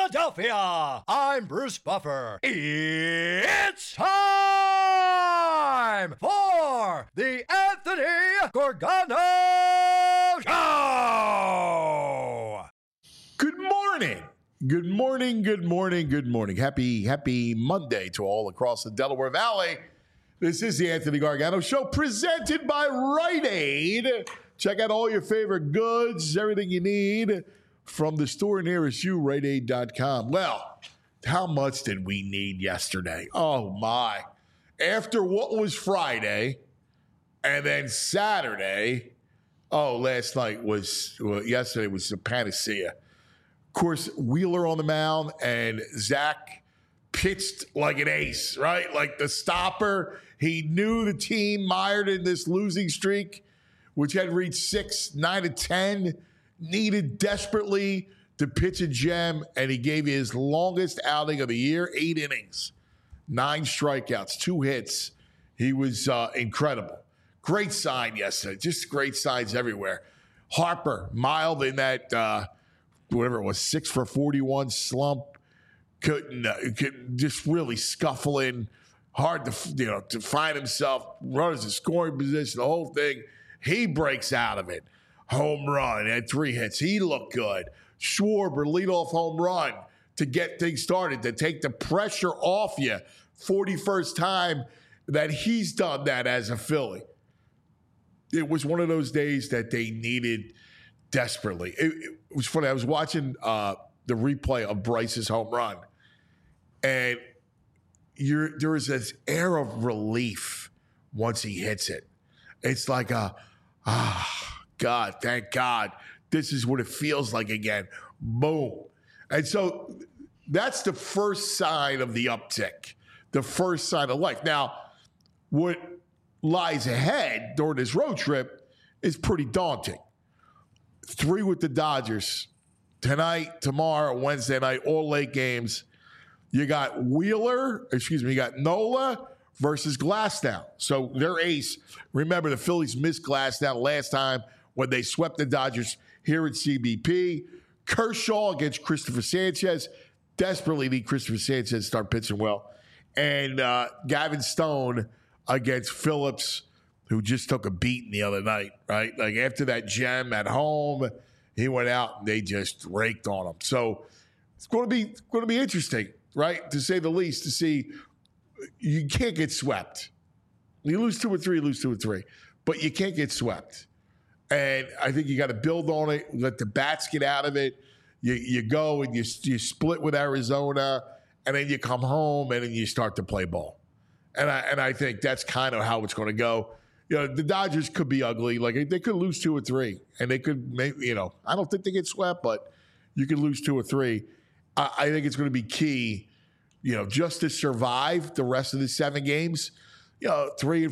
Philadelphia. I'm Bruce Buffer. It's time for the Anthony Gargano Show. Good morning. Good morning, good morning, good morning. Happy Monday to all across the Delaware Valley. This is the Anthony Gargano Show presented by Rite Aid. Check out all your favorite goods, everything you need from the store nearest you, riteaid.com. Well, how much did we need yesterday? Oh, my. After what was Friday and then Saturday, yesterday was the panacea. Of course, Wheeler on the mound and Zach pitched like an ace, right? Like the stopper. He knew the team mired in this losing streak, which had reached 6, 9 to 10, needed desperately to pitch a gem, and he gave you his longest outing of the year, 8 innings, 9 strikeouts, 2 hits. He was incredible. Great sign yesterday. Just great signs everywhere. Harper, mild in that, whatever it was, 6 for 41 slump. Couldn't just really scuffling. Hard to find himself. Runners in scoring position, the whole thing. He breaks out of it. Home run, had 3 hits. He looked good. Schwarber, leadoff home run to get things started, to take the pressure off you. 41st time that he's done that as a Philly. It was one of those days that they needed desperately. It was funny. I was watching the replay of Bryce's home run, and there is this air of relief once he hits it. It's like God, thank God. This is what it feels like again. Boom. And so that's the first sign of the uptick, the first sign of life. Now, what lies ahead during this road trip is pretty daunting. 3 with the Dodgers tonight, tomorrow, Wednesday night, all late games. You got you got Nola versus Glasnow. So their ace, remember the Phillies missed Glasnow last time when they swept the Dodgers here at CBP. Kershaw against Christopher Sanchez. Desperately need Christopher Sanchez to start pitching well. And Gavin Stone against Phillips, who just took a beating the other night, right? Like after that gem at home, he went out and they just raked on him. So it's going to be interesting, right? To say the least, to see you can't get swept. You lose 2 or 3, but you can't get swept. And I think you got to build on it, let the bats get out of it. You go and you split with Arizona, and then you come home and then you start to play ball. And I think that's kind of how it's going to go. The Dodgers could be ugly. Like they could lose 2 or 3, and they could maybe, I don't think they get swept, but you could lose 2 or 3. I think it's going to be key, just to survive the rest of the 7 games. 3-4,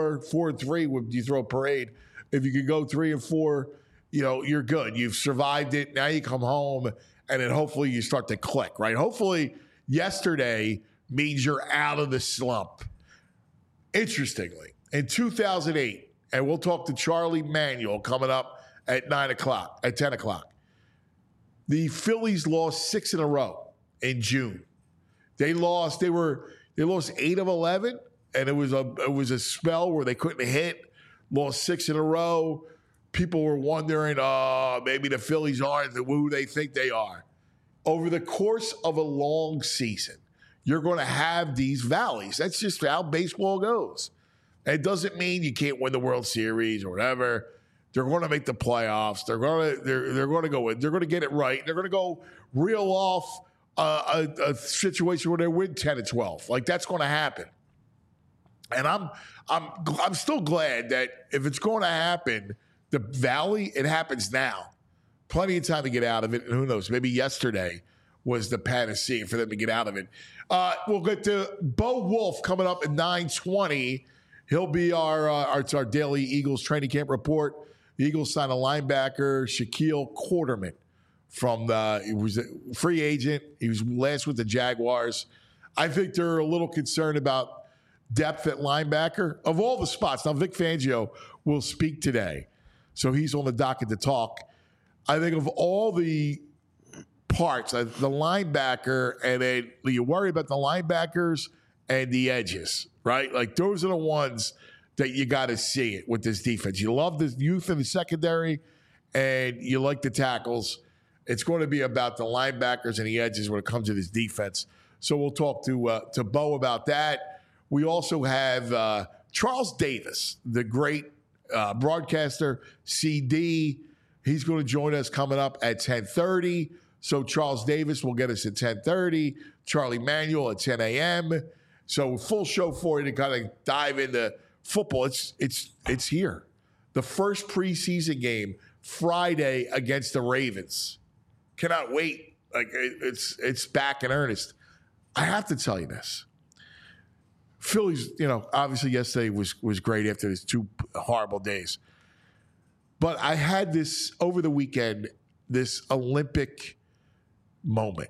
4-3 when you throw a parade. If you could go 3-4, you're good. You've survived it. Now you come home, and then hopefully you start to click, right? Hopefully yesterday means you're out of the slump. Interestingly, in 2008, and we'll talk to Charlie Manuel coming up at 10 o'clock. The Phillies lost 6 in a row in June. They lost 8 of 11, and it was a spell where they couldn't hit. Lost 6 in a row. People were wondering, maybe the Phillies aren't who they think they are. Over the course of a long season, you're going to have these valleys. That's just how baseball goes. It doesn't mean you can't win the World Series or whatever. They're going to make the playoffs. They're going to go in. They're going to get it right. They're going to go reel off a situation where they win 10 and 12. Like that's going to happen. And I'm still glad that if it's going to happen, the valley, it happens now. Plenty of time to get out of it. And who knows? Maybe yesterday was the panacea for them to get out of it. We'll get to Bo Wolf coming up at 9:20. He'll be our daily Eagles training camp report. The Eagles signed a linebacker, Shaquille Quarterman, he was a free agent. He was last with the Jaguars. I think they're a little concerned about depth at linebacker of all the spots. Now, Vic Fangio will speak today, so he's on the docket to talk. I think of all the parts, like the linebacker, and then you worry about the linebackers and the edges, right? Like those are the ones that you got to see it with this defense. You love the youth in the secondary, and you like the tackles. It's going to be about the linebackers and the edges when it comes to this defense. So we'll talk to Bo about that. We also have Charles Davis, the great broadcaster, CD. He's going to join us coming up at 10:30. So Charles Davis will get us at 10:30. Charlie Manuel at 10 a.m. So full show for you to kind of dive into football. It's here. The first preseason game Friday against the Ravens. Cannot wait. Like it's back in earnest. I have to tell you this. Phillies, obviously yesterday was great after these 2 horrible days. But I had this over the weekend, this Olympic moment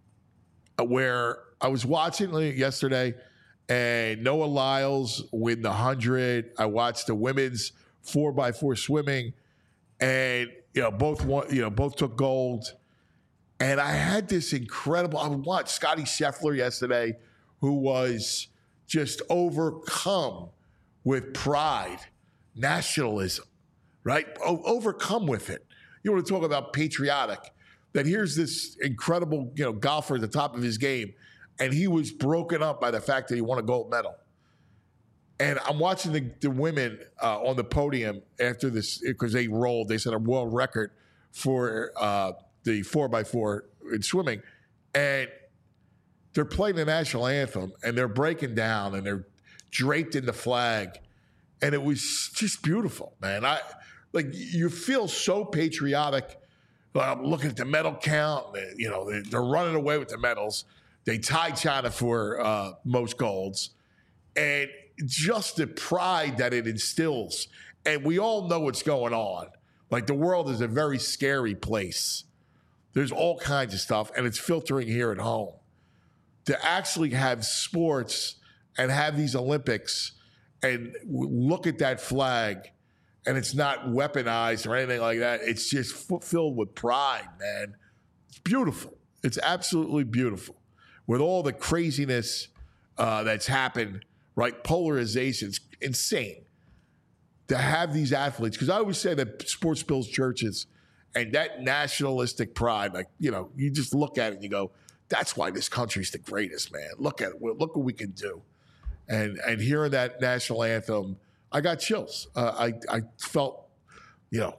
where I was watching yesterday and Noah Lyles win the 100. I watched the women's 4x4 swimming, and both took gold. And I had this incredible. I watched Scotty Scheffler yesterday, who was just overcome with pride, nationalism, right? Overcome with it. You want to talk about patriotic? That here's this incredible, golfer at the top of his game, and he was broken up by the fact that he won a gold medal. And I'm watching the women on the podium after this because they rolled. They set a world record for the 4x4 in swimming, and they're playing the national anthem, and they're breaking down, and they're draped in the flag, and it was just beautiful, man. You feel so patriotic. I'm looking at the medal count. They're running away with the medals. They tied China for most golds, and just the pride that it instills. And we all know what's going on. Like, the world is a very scary place. There's all kinds of stuff, and it's filtering here at home. To actually have sports and have these Olympics and look at that flag, and it's not weaponized or anything like that. It's just filled with pride, man. It's beautiful. It's absolutely beautiful. With all the craziness that's happened, right? Polarization's insane. To have these athletes, because I always say that sports builds churches, and that nationalistic pride, you just look at it and you go, that's why this country's the greatest, man. Look at it. Look what we can do. And hearing that national anthem, I got chills. I felt, you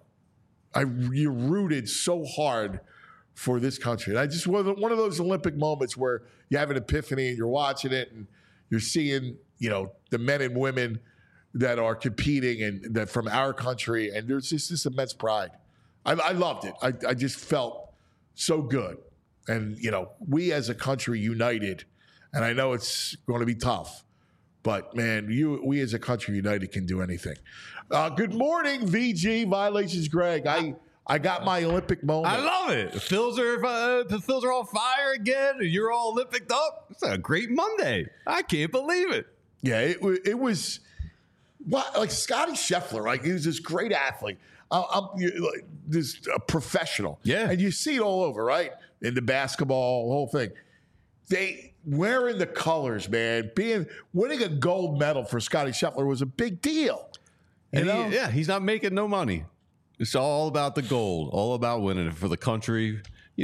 rooted so hard for this country. And I just was one of those Olympic moments where you have an epiphany and you're watching it and you're seeing, the men and women that are competing and that from our country. And there's just this immense pride. I loved it. I just felt so good. And, we as a country united, and I know it's going to be tough, but, man, we as a country united can do anything. Good morning, VG, Violations Greg. I got my Olympic moment. I love it. The Phils are on fire again, and you're all Olympic up. It's a great Monday. I can't believe it. Yeah, it was like Scotty Scheffler, right? He was this great athlete. This professional. Yeah. And you see it all over, right? In the basketball, the whole thing. They wearing the colors, man. Winning a gold medal for Scotty Scheffler was a big deal. He's not making no money. It's all about the gold, all about winning it for the country.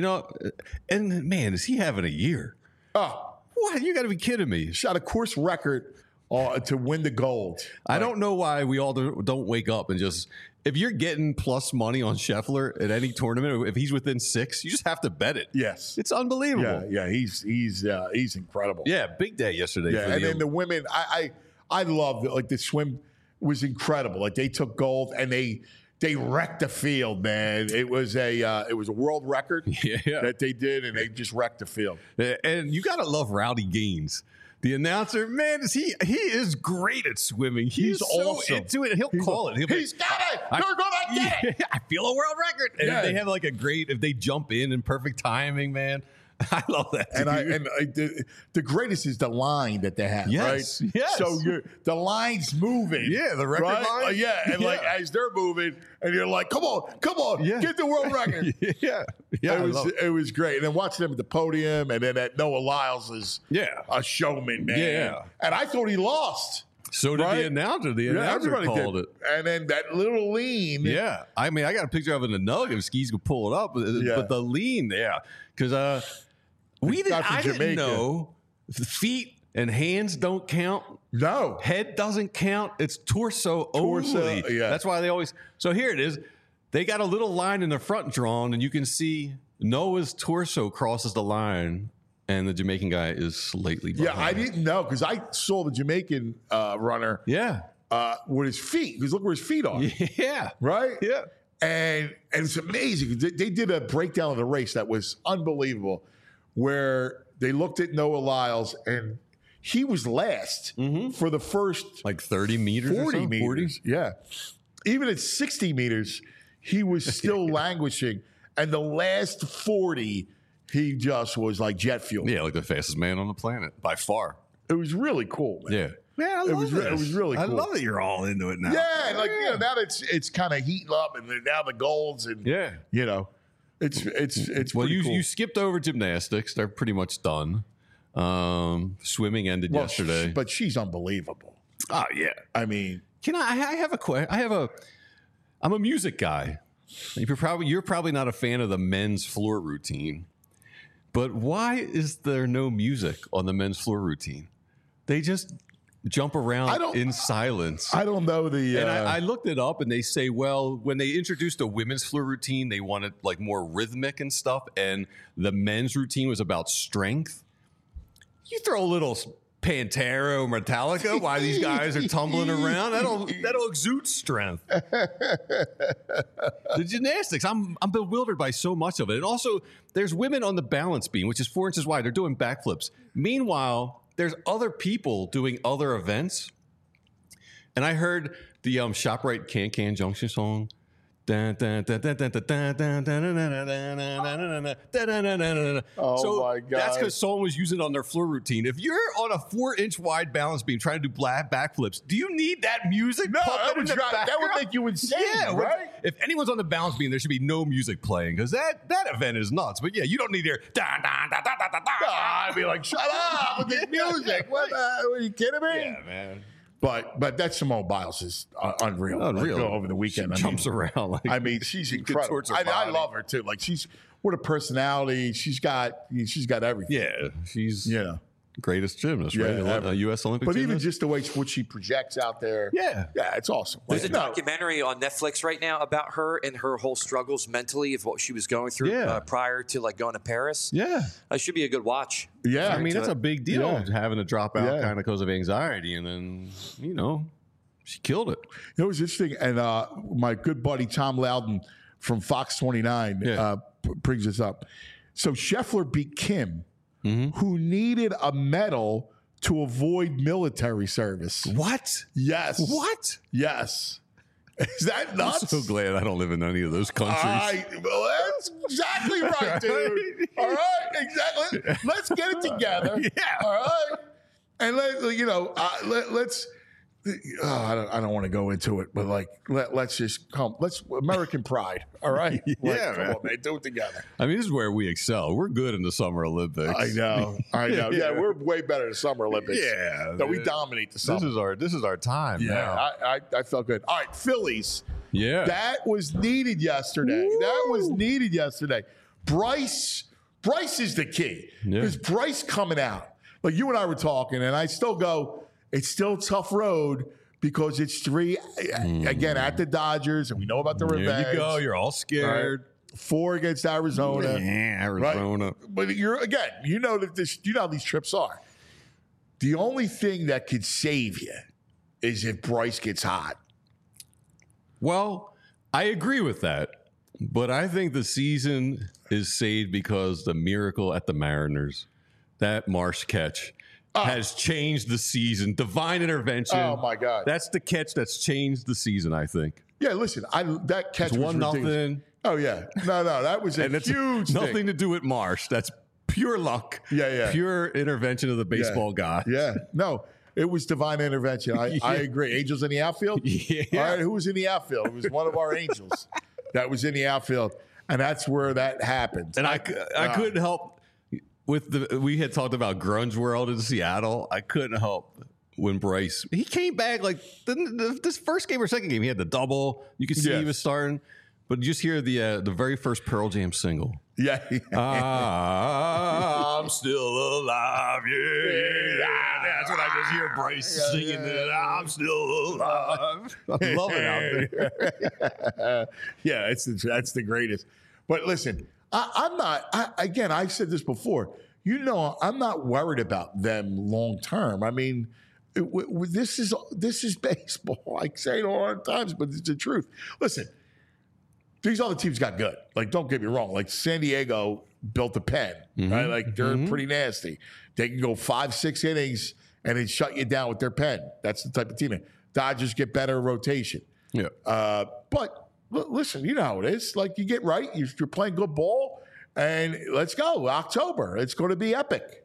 And man, is he having a year? Oh, what? You got to be kidding me. Shot a course record to win the gold. I don't know why we all don't wake up and just, if you're getting plus money on Scheffler at any tournament, if he's within 6, you just have to bet it. Yes. It's unbelievable. Yeah, he's incredible. Yeah, big day yesterday. Yeah, and then the women, I loved it. Like, the swim was incredible. Like, they took gold and they wrecked the field, man. It was a world record that they did, and they just wrecked the field. And you gotta love Rowdy Gaines. The announcer, man, he is great at swimming. He's awesome. So into it. He'll call it. He's got it. They're gonna get it. I feel a world record. And if they have like a great, if they jump in perfect timing, man, I love that. The greatest is the line that they have, Yes, right? yes. So the line's moving. Yeah, the record right? line. And like as they're moving, and you're like, come on, Yeah. get the world record. yeah. It was great. And then watching them at the podium, and then that Noah Lyles is a showman, man. Yeah. And I thought he lost. So did the announcer. The announcer called it. And then that little lean. Yeah. I mean, I got a picture of it in the nug if skis could pull it up. But the lean, because I didn't know feet and hands don't count. No. Head doesn't count. It's torso only. Yeah. That's why they always. So here it is. They got a little line in the front drawn, and you can see Noah's torso crosses the line, and the Jamaican guy is slightly behind. Yeah, I didn't know because I saw the Jamaican runner with his feet. Because look where his feet are. Yeah. Right? Yeah. And it's amazing. They did a breakdown of the race that was unbelievable where they looked at Noah Lyles and he was last for the first like 30 meters 40 or meters. 40? Yeah. Even at 60 meters, he was still languishing. And the last 40, he just was like jet fuel. Yeah, like the fastest man on the planet by far. It was really cool, man. Yeah. Man, I love It was really cool. I love that you're all into it now. Yeah, like now that it's kind of heating up, and now the golds, and it's Well, pretty cool. you skipped over gymnastics. They're pretty much done. Swimming ended yesterday. But she's unbelievable. Oh yeah. I mean, I have a question. I'm a music guy. You're probably not a fan of the men's floor routine, but why is there no music on the men's floor routine? They just jump around in silence. I don't know the. And I looked it up, and they say, well, when they introduced the women's floor routine, they wanted like more rhythmic and stuff, and the men's routine was about strength. You throw a little Pantera or Metallica while these guys are tumbling around. That'll exude strength. The gymnastics, I'm bewildered by so much of it. And also, there's women on the balance beam, which is 4 inches wide. They're doing backflips. Meanwhile, there's other people doing other events. And I heard the ShopRite Can Junction song. Oh my God. That's because someone was using it on their floor routine. If you're on a 4-inch wide balance beam trying to do backflips, do you need that music? No, that would make you insane, right? If anyone's on the balance beam, there should be no music playing because that event is nuts. But yeah, you don't need to hear. I'd be like, shut up with this music. What? Are you kidding me? Yeah, man. But that Simone Biles is unreal. Unreal. Like, over the weekend, She jumps around. Like, she's incredible. I love her too. Like what a personality. She's got everything. Yeah, she's greatest gymnast, right? Yeah, U.S. Olympic But gymnast. even just the way what she projects out there. Yeah, it's awesome. There's a documentary on Netflix right now about her and her whole struggles mentally of what she was going through prior to like going to Paris. Yeah, that should be a good watch. Yeah, I mean that's a big deal having to drop out kind of because of anxiety, and then she killed it. It was interesting, and my good buddy Tom Loudon from Fox 29 brings this up. So Scheffler beat Kim, who needed a medal to avoid military service. What? Yes. What? Yes. Is that nuts? I'm so glad I don't live in any of those countries. Well, that's exactly right, dude. All right, exactly. Let's get it together. Yeah. All right. And let's. I don't want to go into it, but let's just come. Let's American pride. All right. Come on, man. Do it together. I mean, this is where we excel. We're good in the Summer Olympics. I know. Yeah, we're way better in the Summer Olympics. Yeah. No, we dominate the summer. This is our time. Yeah. Now. I felt good. All right, Phillies. Yeah. That was needed yesterday. Woo. That was needed yesterday. Bryce is the key. Because Bryce coming out. Like you and I were talking, and I still go, it's still a tough road because it's 3, again, at the Dodgers, and we know about the revenge. There you go. You're all scared. Right. 4 against Arizona. Arizona. Right? But you know how these trips are. The only thing that could save you is if Bryce gets hot. Well, I agree with that. But I think the season is saved because the miracle at the Mariners, that Marsh catch, has changed the season. Divine intervention. Oh, my God. That's the catch that's changed the season, I think. Yeah, listen, that catch It's was 1-0. ridiculous. Oh, yeah. No, that was a huge nothing thing. to do with Marsh. That's pure luck. Yeah. Pure intervention of the baseball god. Yeah. No, it was divine intervention. I agree. Angels in the outfield? Yeah. All right, who was in the outfield? It was one of our angels that was in the outfield. And that's where that happened. And I couldn't help we had talked about Grunge World in Seattle. I couldn't help when Bryce, he came back like this first game or second game, he had the double. You could see he was starting. But you just hear the very first Pearl Jam single. Yeah. I'm still alive. Yeah. That's what I just hear Bryce singing. I'm still alive. I love it out there. Yeah, that's the greatest. But listen, I'm not, I said this before, I'm not worried about them long term. I mean, this is baseball. I say it all the times, but it's the truth. Listen, these other teams got good. Like, don't get me wrong. Like, San Diego built a pen, right? Like, they're pretty nasty. They can go 5-6 innings and then shut you down with their pen. That's the type of team. Dodgers get better rotation. Yeah. But listen, you know how it is. Like, you get right. You're playing good ball, and let's go. October. It's going to be epic.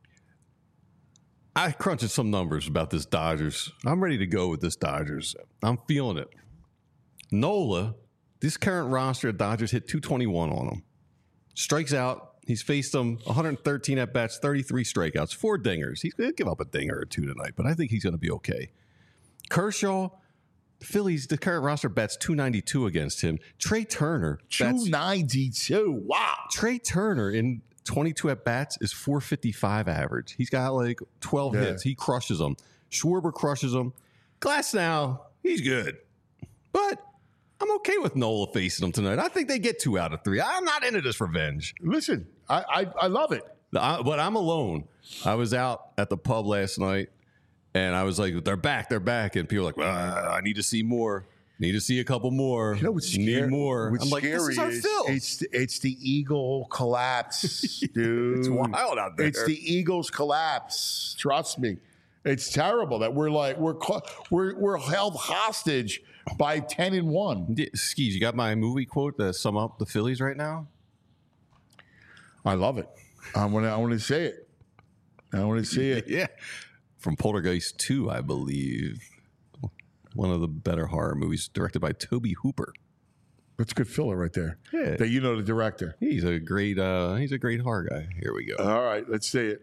I crunched some numbers about this Dodgers. I'm ready to go with this Dodgers. I'm feeling it. Nola, this current roster of Dodgers hit 221 on him. Strikes out. He's faced them 113 at-bats, 33 strikeouts, 4 dingers. He's going to give up a dinger or 2 tonight, but I think he's going to be okay. Kershaw, Phillies, the current roster bats 292 against him. Trey Turner. 292. Wow. Trey Turner in 22 at-bats is 455 average. He's got like 12 hits. He crushes them. Schwarber crushes them. Glasnow, he's good. But I'm okay with Nola facing them tonight. I think they get 2 out of 3. I'm not into this revenge. Listen, I love it. But I'm alone. I was out at the pub last night, and I was like, they're back. And people are like, I need to see more. Need to see a couple more. You know what's scary? Need more. What's I'm like, scary this is our Phils. it's the Eagle collapse, dude. It's wild out there. It's the Eagles collapse. Trust me. It's terrible that we're held hostage by 10-1. Skis, you got my movie quote to sum up the Phillies right now? I love it. I want to say it. I want to see it. Yeah. From Poltergeist 2, I believe. One of the better horror movies directed by Tobe Hooper. That's a good filler right there. Yeah. That you know the director. He's a great horror guy. Here we go. All right, let's see it.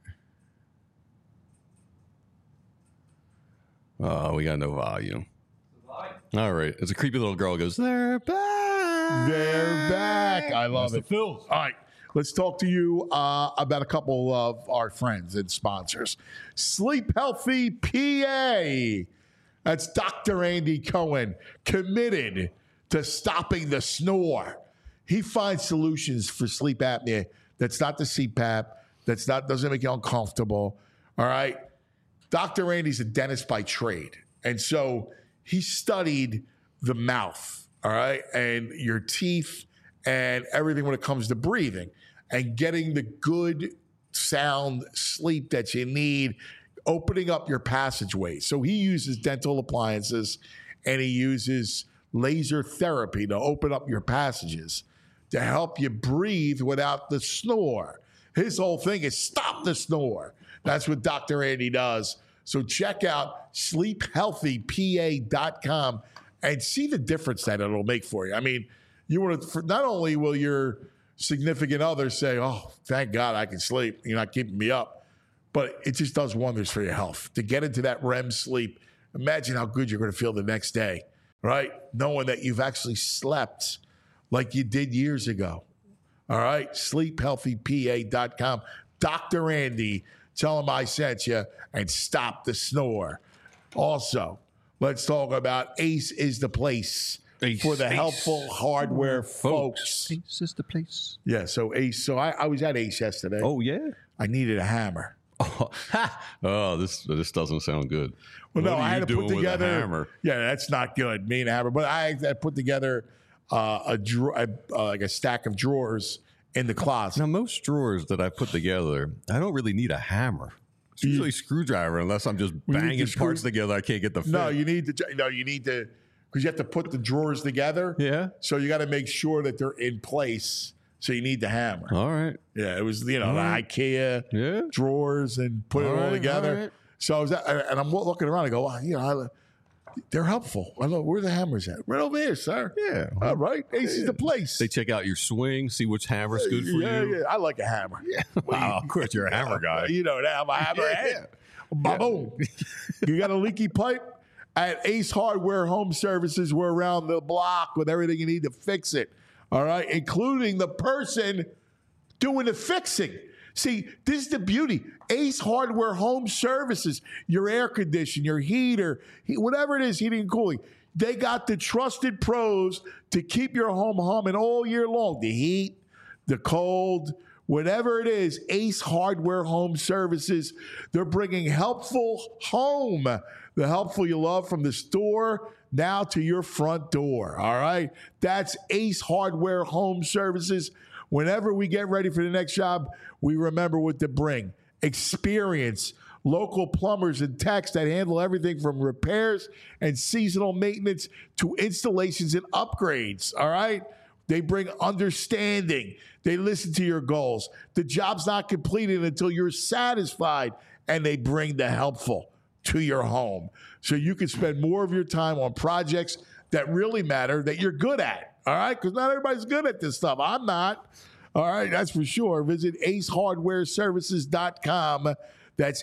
Oh, we got no volume. All right. It's a creepy little girl who goes, they're back. They're back. I love it. Phils. All right. Let's talk to you about a couple of our friends and sponsors. Sleep Healthy PA. That's Dr. Andy Cohen, committed to stopping the snore. He finds solutions for sleep apnea. That's not the CPAP. Doesn't make you uncomfortable. All right. Dr. Andy's a dentist by trade. And so he studied the mouth, all right, and your teeth and everything when it comes to breathing and getting the good sound sleep that you need, opening up your passageways. So he uses dental appliances and he uses laser therapy to open up your passages to help you breathe without the snore. His whole thing is stop the snore. That's what Dr. Andy does. So check out sleephealthypa.com and see the difference that it'll make for you. I mean, you want to, not only will your significant other say, oh, thank God I can sleep, you're not keeping me up, but it just does wonders for your health. To get into that REM sleep, imagine how good you're going to feel the next day, right? Knowing that you've actually slept like you did years ago. All right, sleephealthypa.com. Dr. Andy, tell him I sent you and stop the snore. Also, let's talk about Ace is the place for the helpful hardware folks. Ace is the place. Yeah, so Ace. So I was at Ace yesterday. Oh, yeah? I needed a hammer. Oh, this doesn't sound good. Well, what no, I had to put together. A hammer? Yeah, that's not good. Me and a hammer, but I put together like a stack of drawers in the closet. Now, most drawers that I put together, I don't really need a hammer. It's usually a screwdriver, unless I'm just banging parts together. I can't get the fit. No, you need to, because you have to put the drawers together. Yeah. So you got to make sure that they're in place So you need the hammer. All right. Yeah, it was, the IKEA drawers and put it all together. right. So I was, and I'm looking around. I go, they're helpful. I go, where are the hammers at? Right over here, sir. Yeah. All right. Ace is the place. They check out your swing, see which hammer's good for you. Yeah. I like a hammer. Yeah. Wow, of course, you're a hammer guy. You know that. I'm a hammer head. Boom. You got a leaky pipe? At Ace Hardware Home Services, we're around the block with everything you need to fix it. All right? Including the person doing the fixing. See, this is the beauty. Ace Hardware Home Services, your air conditioner, your heater, whatever it is, heating and cooling. They got the trusted pros to keep your home humming all year long. The heat, the cold, whatever it is, Ace Hardware Home Services, they're bringing helpful home. The helpful you love from the store now to your front door. All right? That's Ace Hardware Home Services. Whenever we get ready for the next job, we remember what to bring. Experience, local plumbers and techs that handle everything from repairs and seasonal maintenance to installations and upgrades, all right? They bring understanding. They listen to your goals. The job's not completed until you're satisfied, and they bring the helpful to your home so you can spend more of your time on projects that really matter, that you're good at. All right, because not everybody's good at this stuff. I'm not. All right, that's for sure. Visit acehardwareservices.com. That's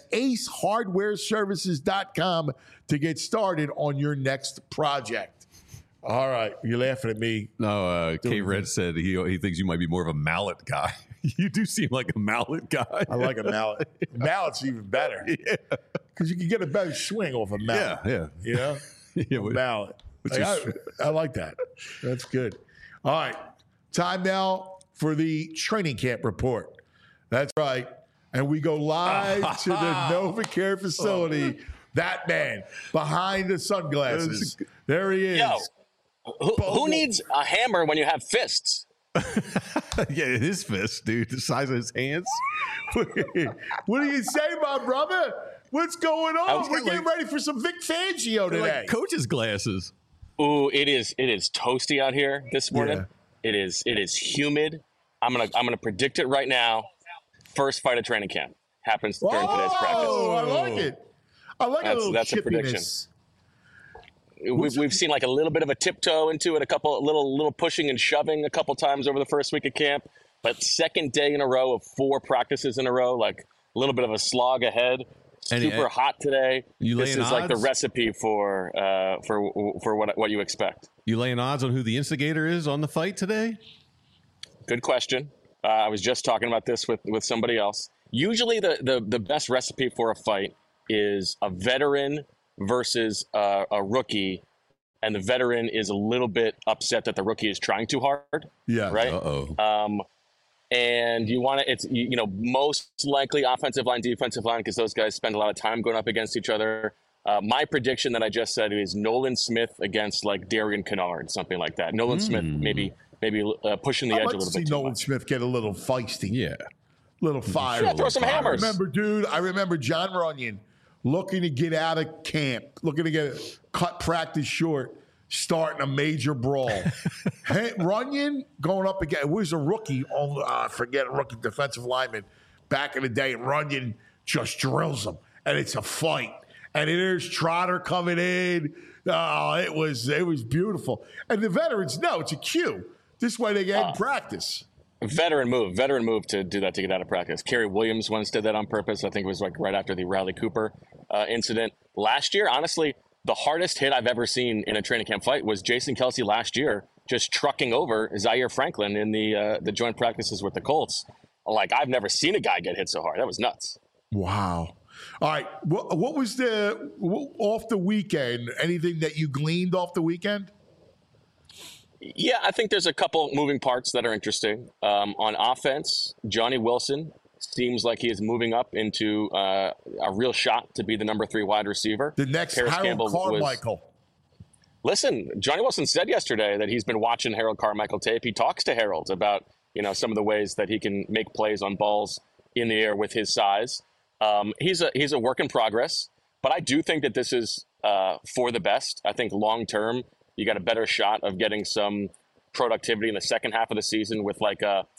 acehardwareservices.com to get started on your next project. All right, you're laughing at me. No, K-Red said he thinks you might be more of a mallet guy. You do seem like a mallet guy. I like a mallet. Mallet's even better. Yeah. Because you can get a better swing off a mallet. Yeah. You know? Mallet. I like that. That's good. All right. Time now for the training camp report. That's right. And we go live to the NovaCare facility. That man behind the sunglasses. There he is. Yo, who needs a hammer when you have fists? Yeah, his fist, dude. The size of his hands. What do you say, my brother? What's going on? We're getting ready for some Vic Fangio today. Like coach's glasses. Ooh, it is toasty out here this morning. Yeah. It is humid. I'm gonna predict it right now. First fight of training camp happens during today's practice. Oh, I like it. I like that's a prediction. We've seen like a little bit of a tiptoe into it, a couple little pushing and shoving a couple times over the first week of camp, but second day in a row of 4 practices in a row, like a little bit of a slog ahead. Super hot today. This is like the recipe for what you expect. You laying odds on who the instigator is on the fight today? Good question. I was just talking about this with somebody else. Usually the best recipe for a fight is a veteran versus a rookie, and the veteran is a little bit upset that the rookie is trying too hard. Yeah. Right. And you want to, it's, most likely offensive line, defensive line, because those guys spend a lot of time going up against each other. My prediction that I just said is Nolan Smith against like Darian Kennard, something like that. Nolan Smith maybe pushing the edge a little bit. See Nolan Smith get a little feisty. Yeah. Little fire. Yeah, throw some hammers. I remember John Runyon looking to get out of camp, looking to cut practice short, starting a major brawl. Runyon going up again. It was a rookie. I forget, a rookie defensive lineman back in the day. And Runyon just drills him. And it's a fight. And there's Trotter coming in. It was beautiful. And the veterans know it's a cue. This way they get in practice. Veteran move to do that, to get out of practice. Kerry Williams once did that on purpose. I think it was like right after the Riley Cooper incident. Last year, honestly, the hardest hit I've ever seen in a training camp fight was Jason Kelce last year, just trucking over Zaire Franklin in the joint practices with the Colts. Like, I've never seen a guy get hit so hard. That was nuts. Wow. All right. What was off the weekend? Anything that you gleaned off the weekend? Yeah, I think there's a couple moving parts that are interesting. On offense, Johnny Wilson seems like he is moving up into a real shot to be the number 3 wide receiver. The next Harold Carmichael. Listen, Johnny Wilson said yesterday that he's been watching Harold Carmichael tape. He talks to Harold about some of the ways that he can make plays on balls in the air with his size. He's a work in progress, but I do think that this is for the best. I think long term, you got a better shot of getting some productivity in the second half of the season with like a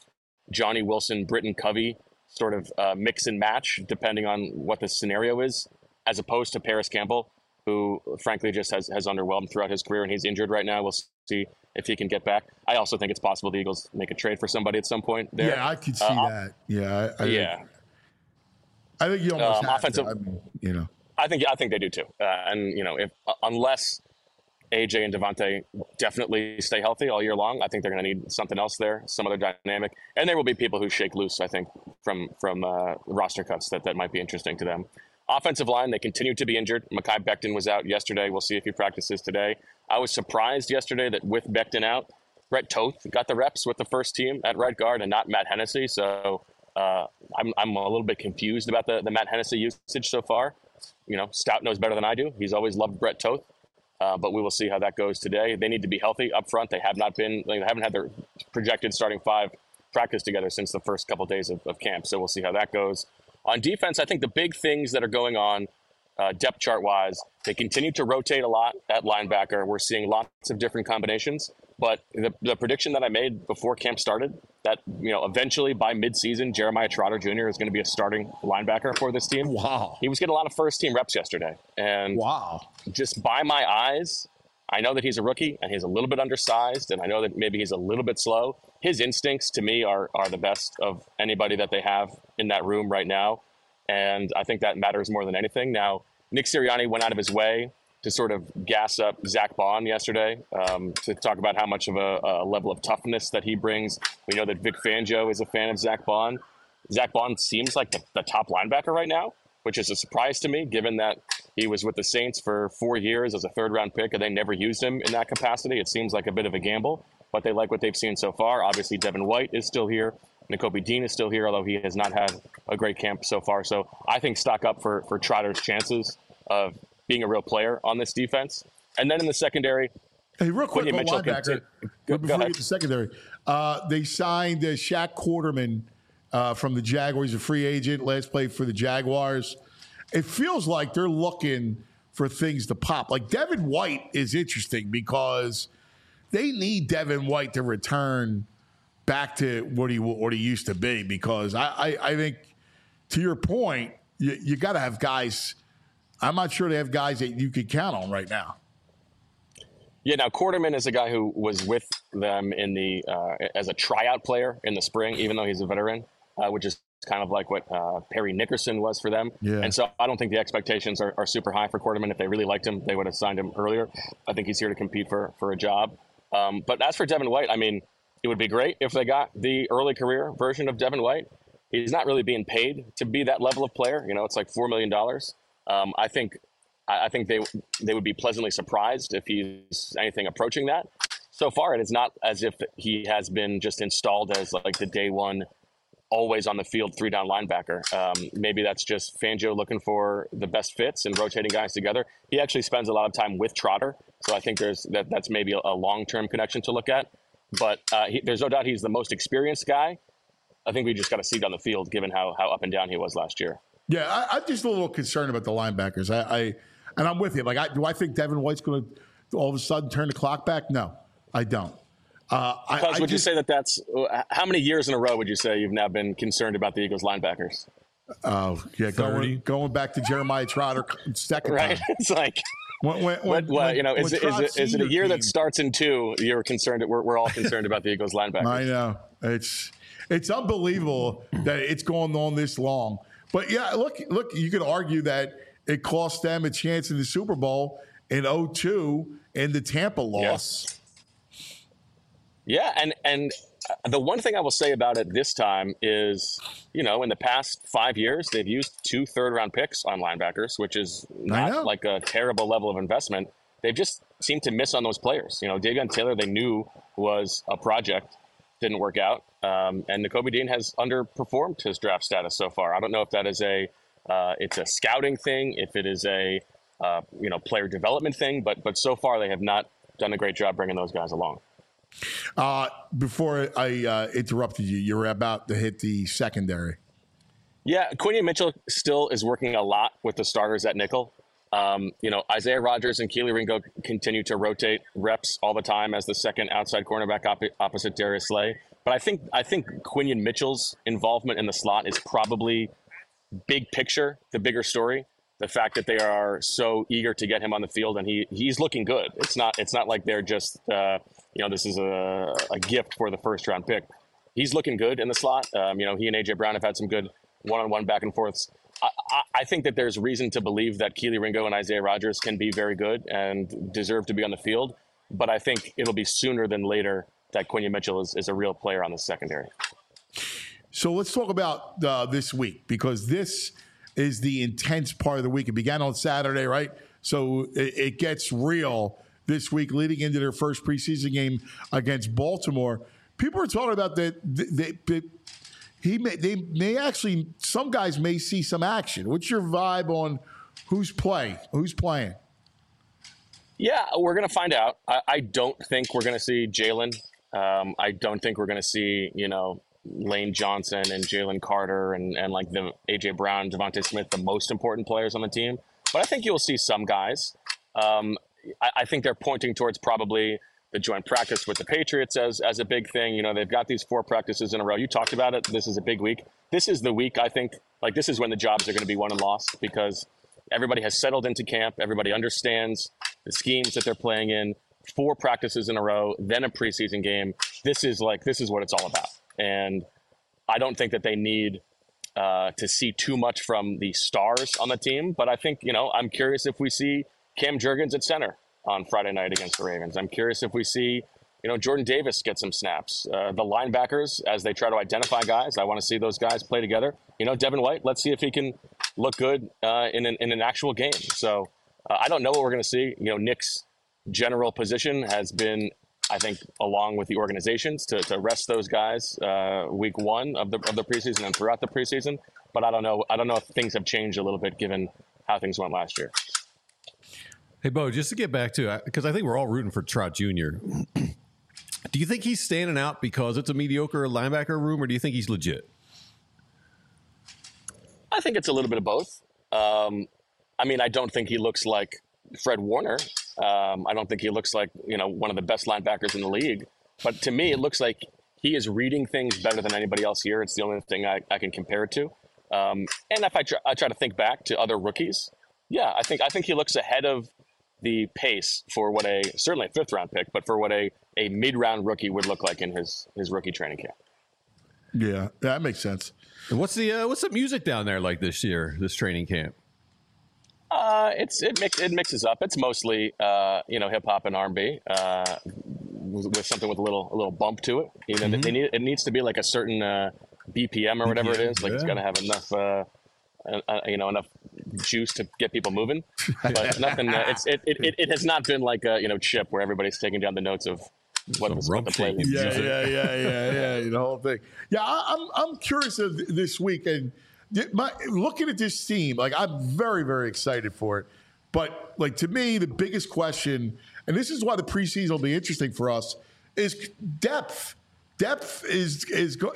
Johnny Wilson, Britton Covey sort of mix and match depending on what the scenario is, as opposed to Paris Campbell, who frankly just has underwhelmed throughout his career, and he's injured right now. We'll see if he can get back. I also think it's possible the Eagles make a trade for somebody at some point there. Yeah, I could see that. Yeah. I think you almost have offensive, to. I mean, you know. I think they do too. And, you know, unless AJ and Devontae definitely stay healthy all year long, I think they're going to need something else there, some other dynamic. And there will be people who shake loose, I think, from roster cuts that might be interesting to them. Offensive line, they continue to be injured. Mekhi Becton was out yesterday. We'll see if he practices today. I was surprised yesterday that with Becton out, Brett Toth got the reps with the first team at right guard and not Matt Hennessy. So I'm a little bit confused about the Matt Hennessy usage so far. You know, Stout knows better than I do. He's always loved Brett Toth. But we will see how that goes today. They need to be healthy up front. They haven't had their projected starting five practice together since the first couple of days of camp. So we'll see how that goes. On defense, I think the big things that are going on depth chart-wise, they continue to rotate a lot at linebacker. We're seeing lots of different combinations. But the prediction that I made before camp started, that eventually by midseason, Jeremiah Trotter Jr. is going to be a starting linebacker for this team. Wow. He was getting a lot of first-team reps yesterday. And just by my eyes, I know that he's a rookie and he's a little bit undersized, and I know that maybe he's a little bit slow. His instincts, to me, are the best of anybody that they have in that room right now. And I think that matters more than anything. Now, Nick Sirianni went out of his way to sort of gas up Zach Bond yesterday to talk about how much of a level of toughness that he brings. We know that Vic Fangio is a fan of Zach Bond. Zach Bond seems like the top linebacker right now, which is a surprise to me, given that he was with the Saints for 4 years as a third-round pick, and they never used him in that capacity. It seems like a bit of a gamble, but they like what they've seen so far. Obviously, Devin White is still here. Nakobe Dean is still here, although he has not had a great camp so far. So I think stock up for Trotter's chances of being a real player on this defense. And then in the secondary, hey, real quick, linebacker, before we get to secondary, they signed Shaq Quarterman from the Jaguars, a free agent, last played for the Jaguars. It feels like they're looking for things to pop. Like Devin White is interesting because they need Devin White to return back to what he used to be, because I think, to your point, you got to have guys. I'm not sure they have guys that you could count on right now. Yeah, now Quarterman is a guy who was with them in the as a tryout player in the spring, even though he's a veteran, which is kind of like what Perry Nickerson was for them. Yeah. And so I don't think the expectations are super high for Quarterman. If they really liked him, they would have signed him earlier. I think he's here to compete for a job. But as for Devin White, I mean, it would be great if they got the early career version of Devin White. He's not really being paid to be that level of player. It's like $4 million. I think they would be pleasantly surprised if he's anything approaching that. So far, it is not as if he has been just installed as like the day one, always on the field, 3-down linebacker. Maybe that's just Fangio looking for the best fits and rotating guys together. He actually spends a lot of time with Trotter, so I think that's maybe a long-term connection to look at. But there's no doubt he's the most experienced guy. I think we just got to see it on the field, given how up and down he was last year. Yeah, I'm just a little concerned about the linebackers. And I'm with you. Like, do I think Devin White's going to all of a sudden turn the clock back? No, I don't. Would you say that's how many years in a row would you say you've now been concerned about the Eagles linebackers? Oh, yeah, going back to Jeremiah Trotter second right? time. It's like is it a year that starts in 2? You're concerned. We're all concerned about the Eagles linebackers. I know it's unbelievable that it's going on this long. But yeah, look, you could argue that it cost them a chance in the Super Bowl in 2002 in the Tampa loss. Yeah, and the one thing I will say about it this time is, in the past 5 years, they've used 2 third-round picks on linebackers, which is not like a terrible level of investment. They've just seemed to miss on those players. Davion Taylor, they knew was a project, didn't work out. And Nakobe Dean has underperformed his draft status so far. I don't know if that is it's a scouting thing, if it is a player development thing, but so far they have not done a great job bringing those guys along. Before I interrupted you, you were about to hit the secondary. Yeah, Quinion Mitchell still is working a lot with the starters at nickel. Isaiah Rodgers and Keely Ringo continue to rotate reps all the time as the second outside cornerback opposite Darius Slay. But I think Quinion Mitchell's involvement in the slot is probably big picture, the bigger story. The fact that they are so eager to get him on the field, and he's looking good. It's not like they're just this is a gift for the first round pick. He's looking good in the slot. He and AJ Brown have had some good one-on-one back and forths. I think that there's reason to believe that Kelee Ringo and Isaiah Rodgers can be very good and deserve to be on the field. But I think it'll be sooner than later that Quinion Mitchell is a real player on the secondary. So let's talk about this week, because this is the intense part of the week. It began on Saturday, right? So it gets real this week leading into their first preseason game against Baltimore. People are talking about that they may actually, some guys may see some action. What's your vibe on who's playing? Yeah, we're going to find out. I don't think we're going to see Jalen. I don't think we're going to see, Lane Johnson and Jalen Carter and like the AJ Brown, Devontae Smith, the most important players on the team. But I think you'll see some guys. I think they're pointing towards probably the joint practice with the Patriots as a big thing. They've got these 4 practices in a row. You talked about it. This is a big week. This is the week, I think, like this is when the jobs are going to be won and lost, because everybody has settled into camp. Everybody understands the schemes that they're playing in. 4 practices in a row, then a preseason game. This is what it's all about. And I don't think that they need to see too much from the stars on the team. But I think, I'm curious if we see Cam Jurgens at center on Friday night against the Ravens. I'm curious if we see, Jordan Davis get some snaps. The linebackers, as they try to identify guys, I want to see those guys play together. Devin White, let's see if he can look good in an actual game. So I don't know what we're going to see. Nick's general position has been, I think, along with the organizations, to rest those guys week 1 of the preseason and throughout the preseason. But I don't know if things have changed a little bit given how things went last year. Hey, Bo, just to get back to, because I think we're all rooting for Trout Jr. Do you think he's standing out because it's a mediocre linebacker room, or do you think he's legit? I think it's a little bit of both. I don't think he looks like Fred Warner. I don't think he looks like, one of the best linebackers in the league. But to me, it looks like he is reading things better than anybody else here. It's the only thing I can compare it to. And if I try to think back to other rookies, I think he looks ahead of the pace for what certainly a 5th round pick, but for what a mid-round rookie would look like in his rookie training camp. Yeah, that makes sense. And what's the music down there like this training camp? It mixes up. It's mostly hip hop and R&B with something with a little bump to it. It needs to be like a certain BPM or whatever it is. Like it's got to have enough enough juice to get people moving. But nothing. It has not been like Chip, where everybody's taking down the notes of what it was about to play. Yeah. The whole thing. Yeah, I'm curious of this week and. Looking at this team, like I'm very, very excited for it. But like to me, the biggest question, and this is why the preseason will be interesting for us, is depth. Depth is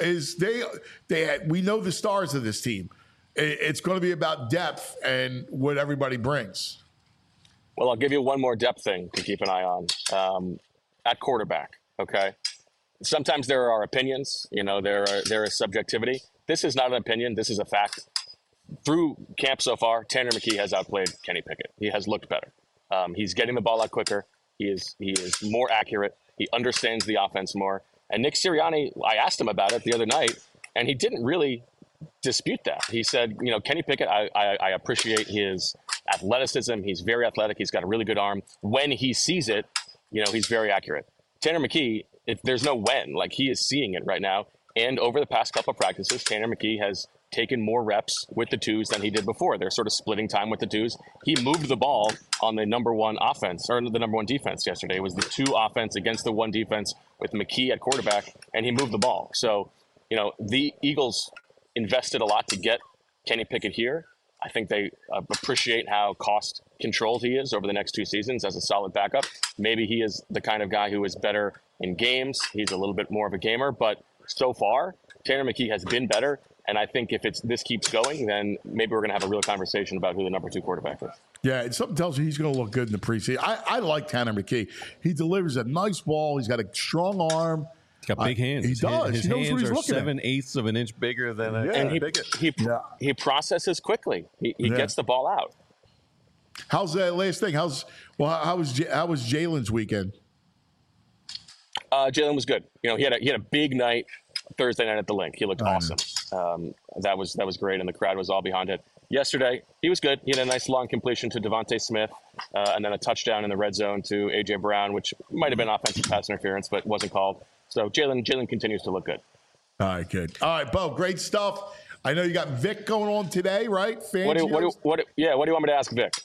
we know the stars of this team. It's going to be about depth and what everybody brings. Well, I'll give you one more depth thing to keep an eye on at quarterback. Okay, sometimes there are opinions. There is subjectivity. This is not an opinion. This is a fact. Through camp so far, Tanner McKee has outplayed Kenny Pickett. He has looked better. He's getting the ball out quicker. He is more accurate. He understands the offense more. And Nick Sirianni, I asked him about it the other night, and he didn't really dispute that. He said, Kenny Pickett, I appreciate his athleticism. He's very athletic. He's got a really good arm. When he sees it, he's very accurate. Tanner McKee, there's no when. Like, he is seeing it right now. And over the past couple of practices, Tanner McKee has taken more reps with the twos than he did before. They're sort of splitting time with the twos. He moved the ball on the number 1 offense, or the number 1 defense yesterday. It was the 2 offense against the 1 defense with McKee at quarterback, and he moved the ball. So, the Eagles invested a lot to get Kenny Pickett here. I think they appreciate how cost controlled he is over the next 2 seasons as a solid backup. Maybe he is the kind of guy who is better in games. He's a little bit more of a gamer, but so far, Tanner McKee has been better, and I think if this keeps going, then maybe we're going to have a real conversation about who the number 2 quarterback is. Yeah, and something tells you he's going to look good in the preseason. I like Tanner McKee. He delivers a nice ball. He's got a strong arm, He's got big hands. He does. His He knows what hands he's are looking at. 7/8 of an inch bigger than a And he processes quickly. He gets the ball out. How's that last thing? How was Jalen's weekend? Jalen was good. You know, he had a big night Thursday night at the Link. He looked awesome. That was great, and the crowd was all behind it. Yesterday, he was good. He had a nice long completion to Devontae Smith, and then a touchdown in the red zone to A.J. Brown, which might have been offensive pass interference, but wasn't called. So Jalen continues to look good. All right, good. All right, Bo, great stuff. I know you got Vic going on today, right? What do you want me to ask Vic?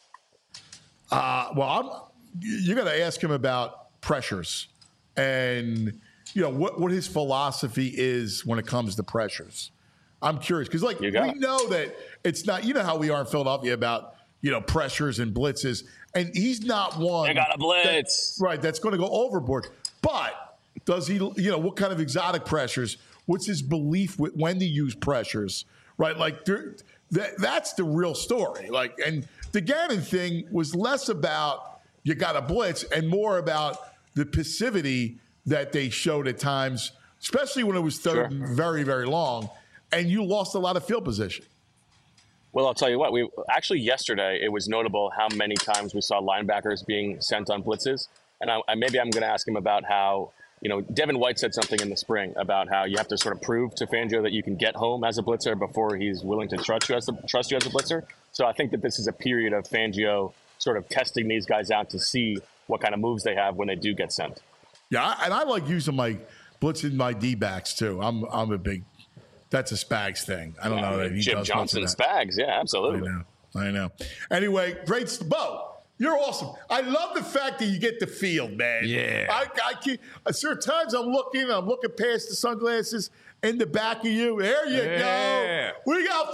You're going to ask him about pressures and what his philosophy is when it comes to pressures. I'm curious because we know that it's not. You know how we are in Philadelphia about pressures and blitzes, and he's not one. They got a blitz, that's going to go overboard. But does he? What kind of exotic pressures? What's his belief with when to use pressures? Right, that's the real story. And the Gannon thing was less about you got a blitz and more about the passivity that they showed at times, especially when it was third and very, very long, and you lost a lot of field position. Well, I'll tell you what. Yesterday it was notable how many times we saw linebackers being sent on blitzes, and maybe I'm going to ask him about how. Devin White said something in the spring about how you have to sort of prove to Fangio that you can get home as a blitzer before he's willing to trust you as a blitzer. So I think that this is a period of Fangio sort of testing these guys out to see what kind of moves they have when they do get sent. Yeah, and I like using my blitzing my D-backs too. I'm a big. That's a Spags thing. I don't know that he Jim does Johnson Spags. Yeah, absolutely. I know. Anyway, great, Bo. You're awesome. I love the fact that you get the field, man. Yeah. I can't. Certain times I'm looking past the sunglasses in the back of you. There you go. We got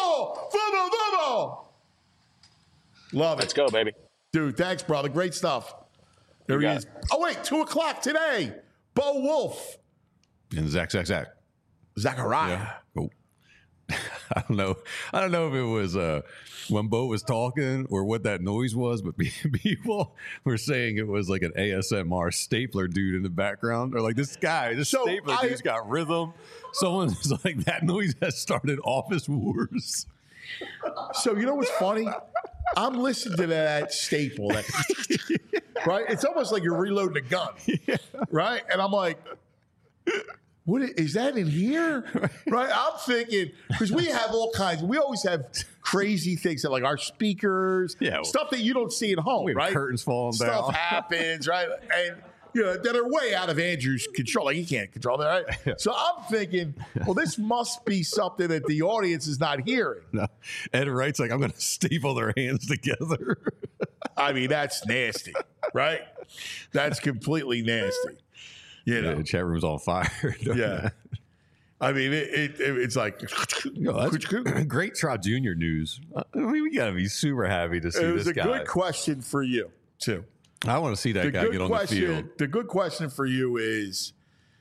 football. Love it. Let's go, baby. Dude, thanks, brother. Great stuff. There he is. Oh, wait, 2:00 today. Bo Wolf. And Zach. Zachariah. Yeah. Oh. I don't know if it was when Bo was talking or what that noise was, but people were saying it was like an ASMR stapler dude in the background, or like this stapler dude's got rhythm. Someone's like, that noise has started office wars. So you know what's funny? I'm listening to that staple, right? It's almost like you're reloading a gun, right? And I'm like, what is that in here? Right? I'm thinking, because we have all kinds. We always have crazy things that, like our speakers, stuff that you don't see at home, right? Curtains falling down. Stuff happens, right? And that are way out of Andrew's control. Like he can't control that, right? Yeah. So I'm thinking, well, this must be something that the audience is not hearing. No. Ed Wright's like, I'm going to staple their hands together. I mean, that's nasty, right? That's completely nasty. The chat room's on fire. Yeah. I mean, it's like great Trout Jr. news. I mean, we got to be super happy to see this guy. It was a good question for you, too. I want to see that guy get on the field. The good question for you is,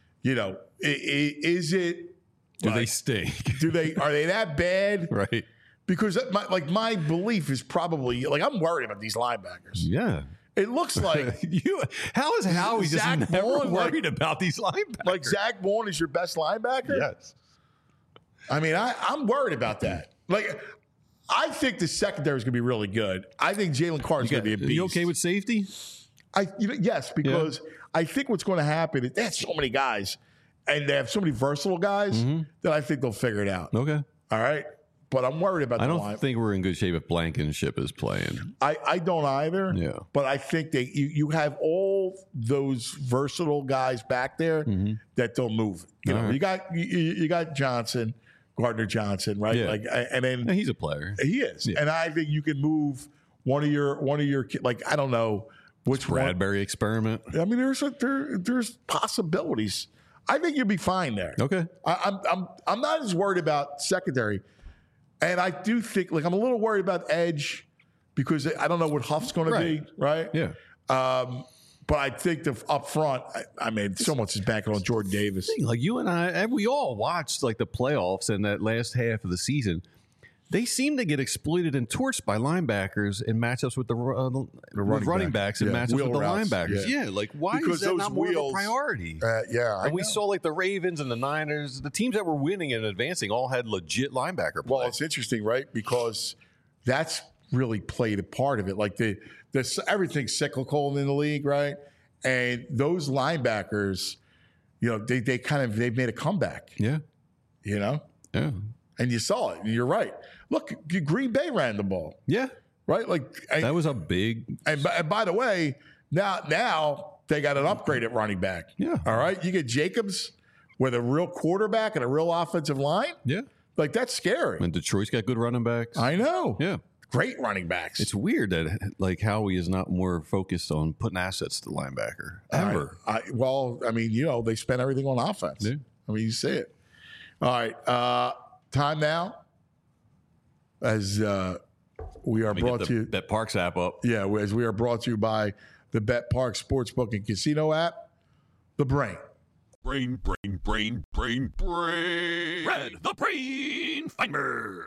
is it? Do they stink? Are they that bad? Right. Because my belief is probably I'm worried about these linebackers. Yeah. It looks like How is Howie just never worried about these linebackers? Like Zach Bourne is your best linebacker? Yes. I mean, I'm worried about that. I think the secondary is going to be really good. I think Jalen Carter's going to be a beast. You okay with safety? Yes, because I think what's going to happen is they have so many guys, and they have so many versatile guys that I think they'll figure it out. Okay. All right. But I'm worried about I don't think we're in good shape if Blankenship is playing. I don't either. Yeah. But I think that you have all those versatile guys back there that don't move. You got Johnson, Gardner Johnson, right? Yeah. And then he's a player. He is. Yeah. And I think you can move one of your I don't know which Bradbury experiment. I mean, there's possibilities. I think you'll be fine there. Okay. I'm not as worried about secondary. And I do think, I'm a little worried about edge because I don't know what Huff's going to be, right? Yeah. But I think up front, I mean, so much is banking on Jordan Davis. Like you and I, we all watched the playoffs and that last half of the season. They seem to get exploited and torched by linebackers in matchups with the running backs and matchups with the linebackers. Yeah, like why is that not more of a priority? And we saw like the Ravens and the Niners, the teams that were winning and advancing all had legit linebacker play. Well, it's interesting, right? Because that's really played a part of it. Like everything's cyclical in the league, right? And those linebackers, they've made a comeback. Yeah. Yeah. And you saw it. And you're right. Look, Green Bay ran the ball. Yeah. Right? That was a big. And by the way, now they got an upgrade at running back. Yeah. All right. You get Jacobs with a real quarterback and a real offensive line. Yeah. Like, that's scary. And Detroit's got good running backs. I know. Yeah. Great running backs. It's weird that like Howie is not more focused on putting assets to linebacker ever. They spend everything on offense. Yeah. I mean, you see it. All right. Time now. As we are brought to you. Bet Parks app up. Yeah, as we are brought to you by the Bet Parks Sportsbook and Casino app, The Brain. Brain. Red, the Brain Finder.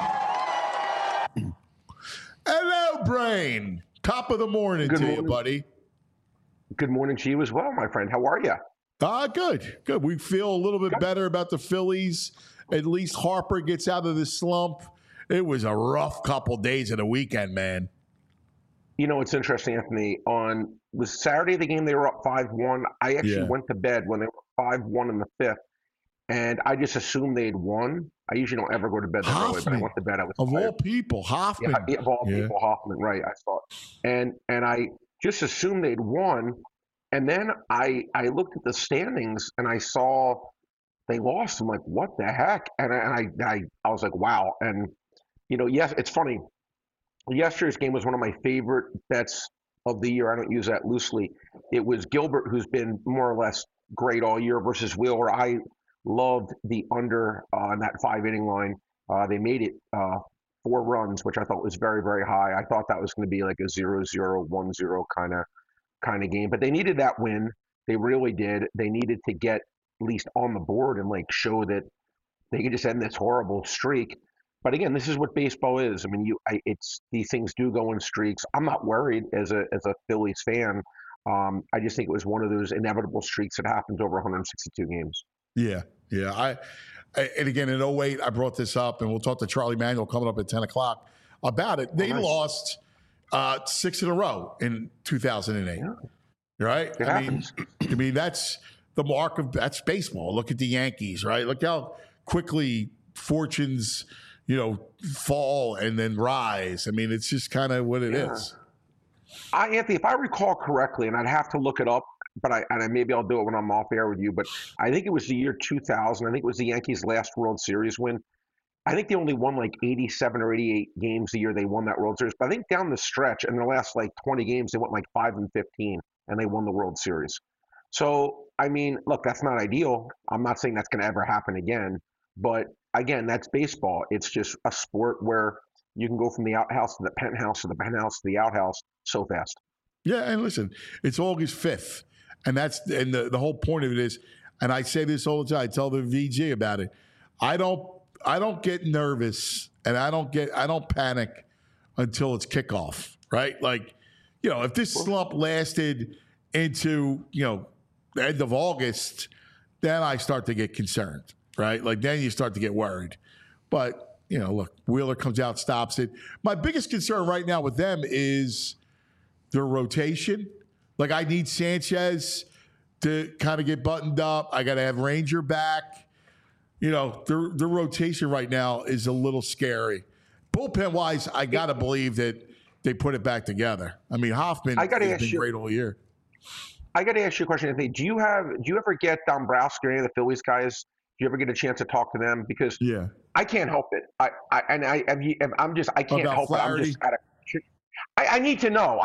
Hello, Brain. Top of the morning to you, buddy. Good morning to you as well, my friend. How are you? Good. We feel a little bit better about the Phillies. At least Harper gets out of the slump. It was a rough couple days of the weekend, man. You know, it's interesting, Anthony. Was Saturday the game they were up 5-1? I actually went to bed when they were 5-1 in the fifth, and I just assumed they'd won. I usually don't ever go to bed that early, but I went to bed. I was of tired. all people, Hoffman. Yeah, of all people, Hoffman. Right, I saw it, and I just assumed they'd won, and then I looked at the standings and I saw they lost. I'm like, what the heck? And I was like, wow. And yes, it's funny. Yesterday's game was one of my favorite bets of the year. I don't use that loosely. It was Gilbert, who's been more or less great all year, versus Wheeler. I loved the under on that 5-inning line. They made it 4 runs, which I thought was very, very high. I thought that was going to be like a 0-0, 1-0 kind of game. But they needed that win. They really did. They needed to get at least on the board and show that they could just end this horrible streak. But again, this is what baseball is. I mean, these things do go in streaks. I'm not worried as a Phillies fan. I just think it was one of those inevitable streaks that happens over 162 games. Yeah. And again, in 2008, I brought this up, and we'll talk to Charlie Manuel coming up at 10 o'clock about it. They lost 6 in a row in 2008. Yeah. Right? I mean, that's the mark of that's baseball. Look at the Yankees, right? Look how quickly fortunes fall and then rise. I mean, it's just kind of what it is. Anthony, if I recall correctly, and I'd have to look it up, but maybe I'll do it when I'm off air with you, but I think it was the year 2000. I think it was the Yankees' last World Series win. I think they only won 87 or 88 games the year they won that World Series. But I think down the stretch, in their last 20 games, they went 5-15, and they won the World Series. So, I mean, look, that's not ideal. I'm not saying that's going to ever happen again. But again, that's baseball. It's just a sport where you can go from the outhouse to the penthouse to the penthouse to the outhouse so fast. Yeah, and listen, it's August 5th, and the whole point of it is, and I say this all the time. I tell the VG about it. I don't get nervous, and I don't panic until it's kickoff, right? If this slump lasted into the end of August, then I start to get concerned. Right? Then you start to get worried. But, look, Wheeler comes out, stops it. My biggest concern right now with them is their rotation. I need Sanchez to kind of get buttoned up. I got to have Ranger back. The rotation right now is a little scary. Bullpen-wise, I got to believe that they put it back together. I mean, Hoffman has been great all year. I got to ask you a question, Anthony. Do you ever get Dombrowski or any of the Phillies guys? Do you ever get a chance to talk to them? Because I can't help it. I can't help Flaherty? it. I need to know.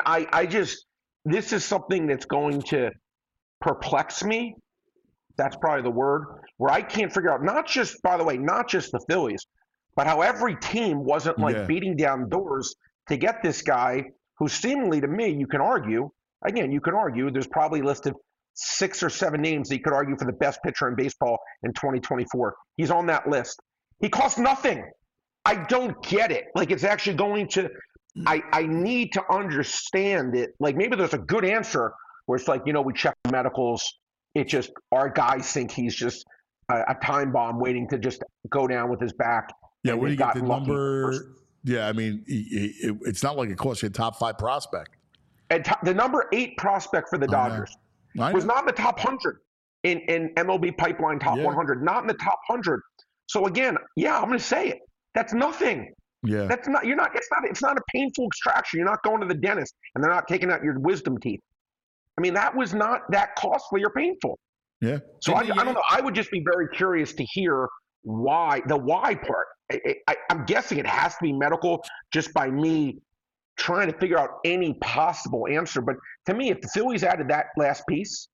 This is something that's going to perplex me. That's probably the word, where I can't figure out, not just the Phillies, but how every team wasn't beating down doors to get this guy who seemingly, to me, you can argue, there's probably listed 6 or 7 names that you could argue for the best pitcher in baseball in 2024. He's on that list. He costs nothing. I don't get it. Like, it's actually going to. I need to understand it. Like, maybe there's a good answer where it's like, we check the medicals. It just, our guys think he's just a time bomb waiting to just go down with his back. Yeah, when you get the number, I mean, it's not like it costs you a top 5 prospect. And the number 8 prospect for the Dodgers was not in the top 100 in MLB Pipeline top 100, not in the top 100. So again, I'm going to say it. That's nothing. Yeah. That's not, it's not a painful extraction. You're not going to the dentist and they're not taking out your wisdom teeth. I mean, that was not that costly or painful. Yeah. So I don't know. I would just be very curious to hear why, the why part. I'm guessing it has to be medical just by me trying to figure out any possible answer. But to me, if the Phillies added that last piece,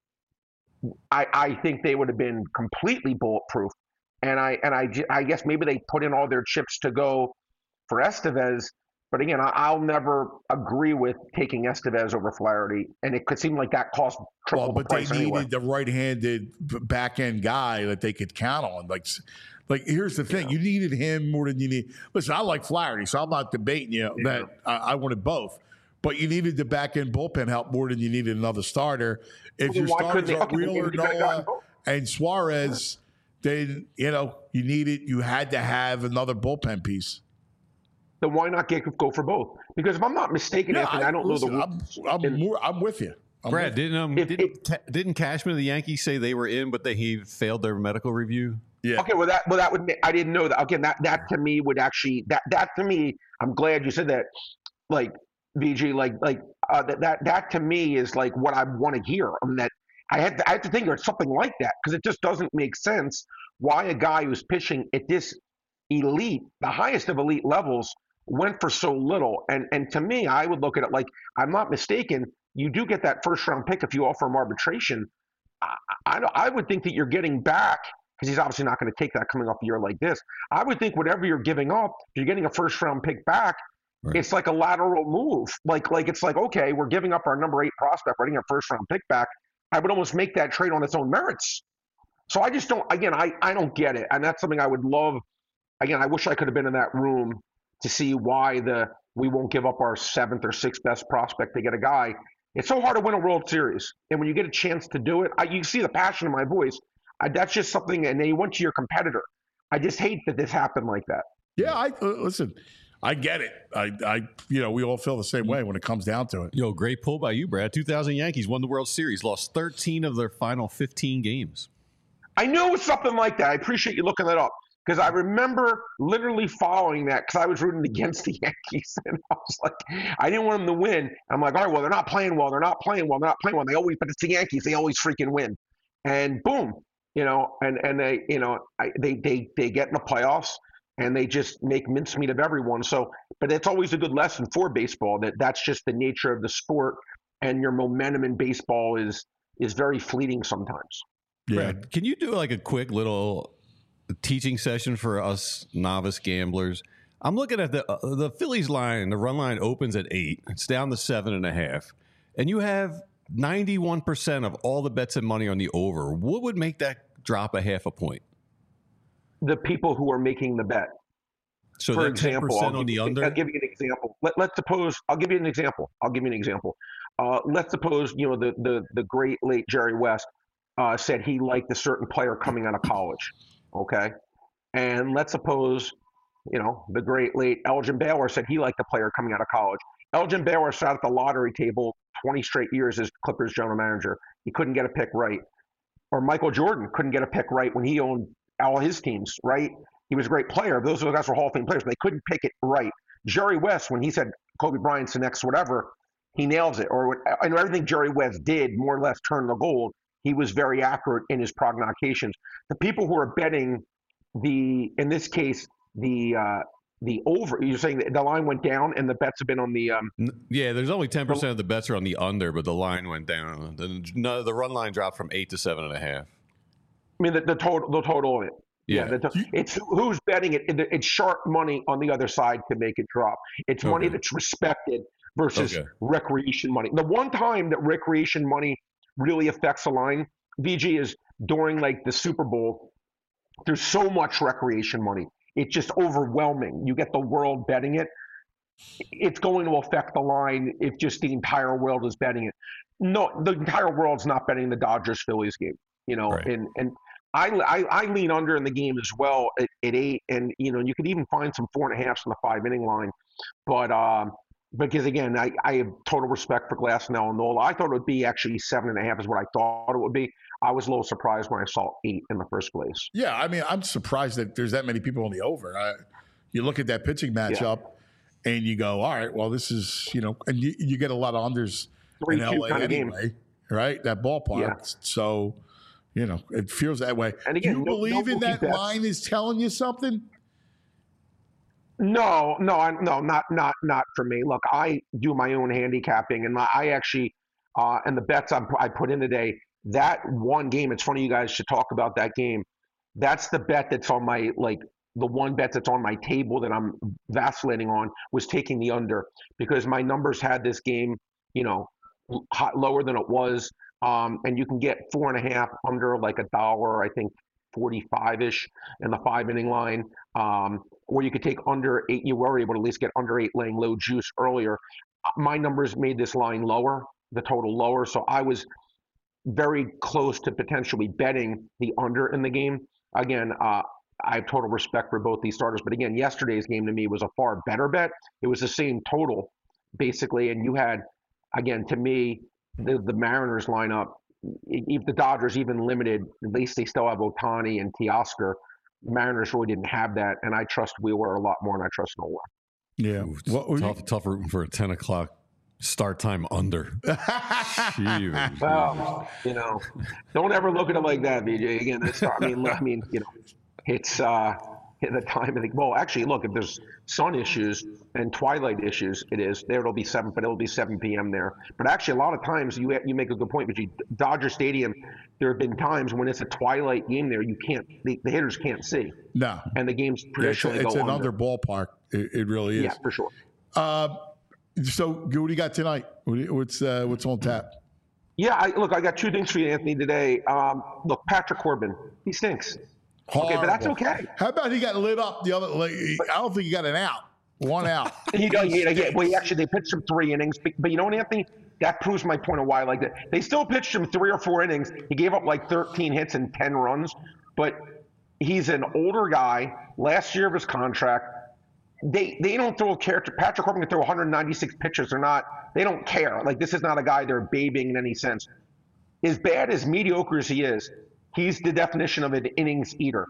I think they would have been completely bulletproof. And I guess maybe they put in all their chips to go for Estevez. But again, I'll never agree with taking Estevez over Flaherty. And it could seem like that cost triple the price anyway. But they needed the right-handed back-end guy that they could count on. Like here's the thing. You needed him more than you need. Listen, I like Flaherty, so I'm not debating that I wanted both. But you needed the back-end bullpen help more than you needed another starter. If your starters are Wheeler, Noah, and Suarez, then, you had to have another bullpen piece. Then why not go for both? Because if I'm not mistaken, Anthony, I don't know the. I'm with you. Brad, didn't Cashman of the Yankees say they were in, but he failed their medical review? Yeah. Okay. Well, that would. I didn't know that. Again, that to me would actually that to me. I'm glad you said that. Like VG, that to me is like what I want to hear. I mean, that I had to think of something like that because it just doesn't make sense why a guy who's pitching at this elite, the highest of elite levels, went for so little. And to me, I would look at it like, I'm not mistaken, you do get that first round pick if you offer him arbitration. I would think that you're getting back, because he's obviously not going to take that coming off a year like this. I would think whatever you're giving up, you're getting a first round pick back. Right. It's like a lateral move. Like it's like, okay, we're giving up our number 8 prospect, we're getting a first round pick back. I would almost make that trade on its own merits. So I just don't, again, I don't get it. And that's something I would love. Again, I wish I could have been in that room to see why we won't give up our 7th or 6th best prospect to get a guy. It's so hard to win a World Series. And when you get a chance to do it, you see the passion in my voice. That's just something, and then you went to your competitor. I just hate that this happened like that. Yeah, listen, I get it. We all feel the same way when it comes down to it. Yo, great pull by you, Brad. 2000 Yankees won the World Series, lost 13 of their final 15 games. I knew it was something like that. I appreciate you looking that up because I remember literally following that because I was rooting against the Yankees. And I was like, I didn't want them to win. I'm like, all right, well, they're not playing well. But it's the Yankees. They always freaking win. And boom, and they, they get in the playoffs. And they just make mincemeat of everyone. So, but it's always a good lesson for baseball that's just the nature of the sport, and your momentum in baseball is very fleeting sometimes. Yeah. Brad, can you do like a quick little teaching session for us novice gamblers? I'm looking at the Phillies line. The run line opens at 8. It's down to 7.5, and you have 91% of all the bets and money on the over. What would make that drop a half a point? The people who are making the bet. So for example, on the under? I'll give you an example. Let's suppose, I'll give you an example. Let's suppose, the great late Jerry West said he liked a certain player coming out of college. Okay. And let's suppose, the great late Elgin Baylor said he liked a player coming out of college. Elgin Baylor sat at the lottery table 20 straight years as Clippers general manager. He couldn't get a pick right. Or Michael Jordan couldn't get a pick right when he owned all his teams, right? He was a great player. Those guys were Hall of Fame players, but they couldn't pick it right. Jerry West, when he said Kobe Bryant's the next whatever, he nails it. And everything Jerry West did more or less turned the gold. He was very accurate in his prognostications. The people who are betting in this case, the over, you're saying the line went down and the bets have been on the yeah, there's only 10% of the bets are on the under, but the line went down. The run line dropped from 8 to 7.5. I mean, the total of it. Yeah. It's who's betting it. It's sharp money on the other side to make it drop. It's money that's respected versus recreation money. The one time that recreation money really affects a line, VG, is during like the Super Bowl. There's so much recreation money. it's just overwhelming. You get the world betting it. It's going to affect the line if just the entire world is betting it. No, the entire world's not betting the Dodgers-Phillies game, Right. and I lean under in the game as well at 8, and you could even find some 4.5s on the 5-inning line, but because again, I have total respect for Glasnow and Nola. I thought it would be actually 7.5 is what I thought it would be. I was a little surprised when I saw 8 in the first place. Yeah, I mean, I'm surprised that there's that many people on the over. You look at that pitching matchup, and you go, all right, well, this is and you get a lot of unders in LA anyway, right? That ballpark, Yeah. so it feels that way. And again, do you believe in that line is telling you something? No, not for me. Look, I do my own handicapping, and I actually, and the bets I put in today, that one game, it's funny you guys should talk about that game. That's the bet that's on my, the one bet that's on my table that I'm vacillating on was taking the under, because my numbers had this game, lower than it was. And you can get 4.5 under like $1, I think 45-ish in the 5-inning line. Or you could take under 8. You were able to at least get under 8 laying low juice earlier. My numbers made this line lower, the total lower. So I was very close to potentially betting the under in the game. Again, I have total respect for both these starters. But again, yesterday's game to me was a far better bet. It was the same total, basically. And you had, again, to me, the Mariners lineup, if the Dodgers even limited, at least they still have Ohtani and Teoscar. Mariners really didn't have that, and I trust Wheeler a lot more than I trust Nola. Yeah. Tough rooting for a 10 o'clock start time under. Well, don't ever look at it like that, BJ. Again, it's at the time of the, well, actually, look, if there's sun issues and twilight issues, it'll be 7, but it'll be 7 p.m. there. But actually, a lot of times you make a good point, but Dodger Stadium, there have been times when it's a twilight game there, you can't, the hitters can't see. No. And the game's traditionally it's an under ballpark. It really is. Yeah, for sure. So, what do you got tonight? What's on tap? Yeah, I got 2 things for you, Anthony, today. Look, Patrick Corbin, he stinks. Horrible. Okay, but that's okay. How about he got lit up the other? I don't think he got an out. One out. Well, they pitched him 3 innings, but you know what, Anthony? That proves my point of why I like that. They still pitched him 3 or 4 innings. He gave up like 13 hits and 10 runs, but he's an older guy. Last year of his contract, they don't throw a character. Patrick Corbin can throw 196 pitches. They don't care. Like, this is not a guy they're babying in any sense. As bad as mediocre as he is, he's the definition of an innings eater.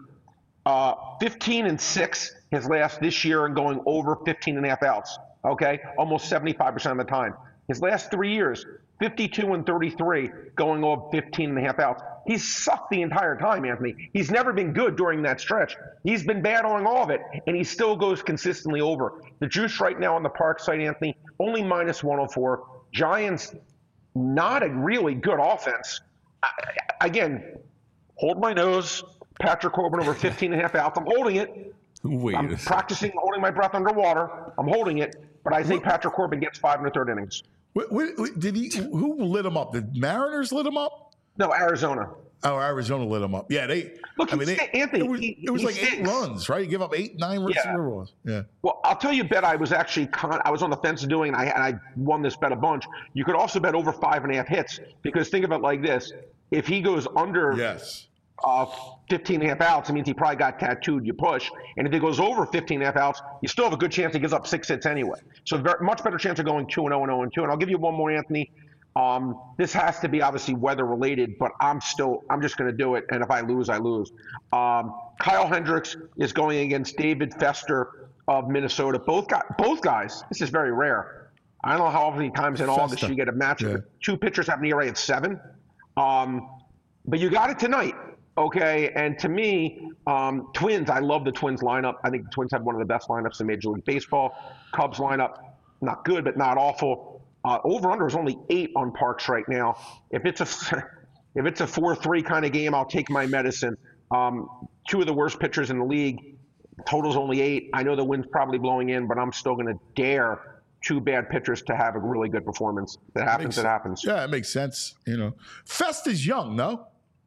15-6 his last this year and going over 15.5 outs. Okay, almost 75% of the time. His last 3 years, 52-33, going over 15.5 outs. He's sucked the entire time, Anthony. He's never been good during that stretch. He's been bad on all of it, and he still goes consistently over. The juice right now on the park site, Anthony, only -104. Giants, not a really good offense. Again, hold my nose. Patrick Corbin over 15.5 outs. I'm holding it. I'm practicing holding my breath underwater. I'm holding it, but I think Patrick Corbin gets 5 1/3 innings. Did he? Who lit him up? The Mariners lit him up? No, Arizona. Oh, Arizona lit him up. Yeah, Anthony, it was like stinks. 8 runs, right? You give up 8, 9 runs. Yeah. Yeah. Well, I'll tell you a bet I was actually I was on the fence of doing, and I won this bet a bunch. You could also bet over 5.5 hits, because think of it like this: if he goes under 15.5 outs, it means he probably got tattooed. You push, and if he goes over 15.5 outs, you still have a good chance he gives up 6 hits anyway. So much better chance of going 2-0 and 0-2. And I'll give you one more, Anthony. This has to be obviously weather related, but I'm just going to do it. And if I lose, I lose. Kyle Hendricks is going against David Fester of Minnesota. Both guys. This is very rare. I don't know how many times in August you get a match with 2 pitchers have an ERA at 7. But you got it tonight. Okay, and to me, Twins, I love the Twins lineup. I think the Twins have one of the best lineups in Major League Baseball. Cubs lineup, not good, but not awful. Over-under is only 8 on Parks right now. If it's a 4-3 kind of game, I'll take my medicine. 2 of the worst pitchers in the league. Total's only 8. I know the wind's probably blowing in, but I'm still going to dare 2 bad pitchers to have a really good performance. If it happens, it happens. Yeah, it makes sense. Fest is young, no?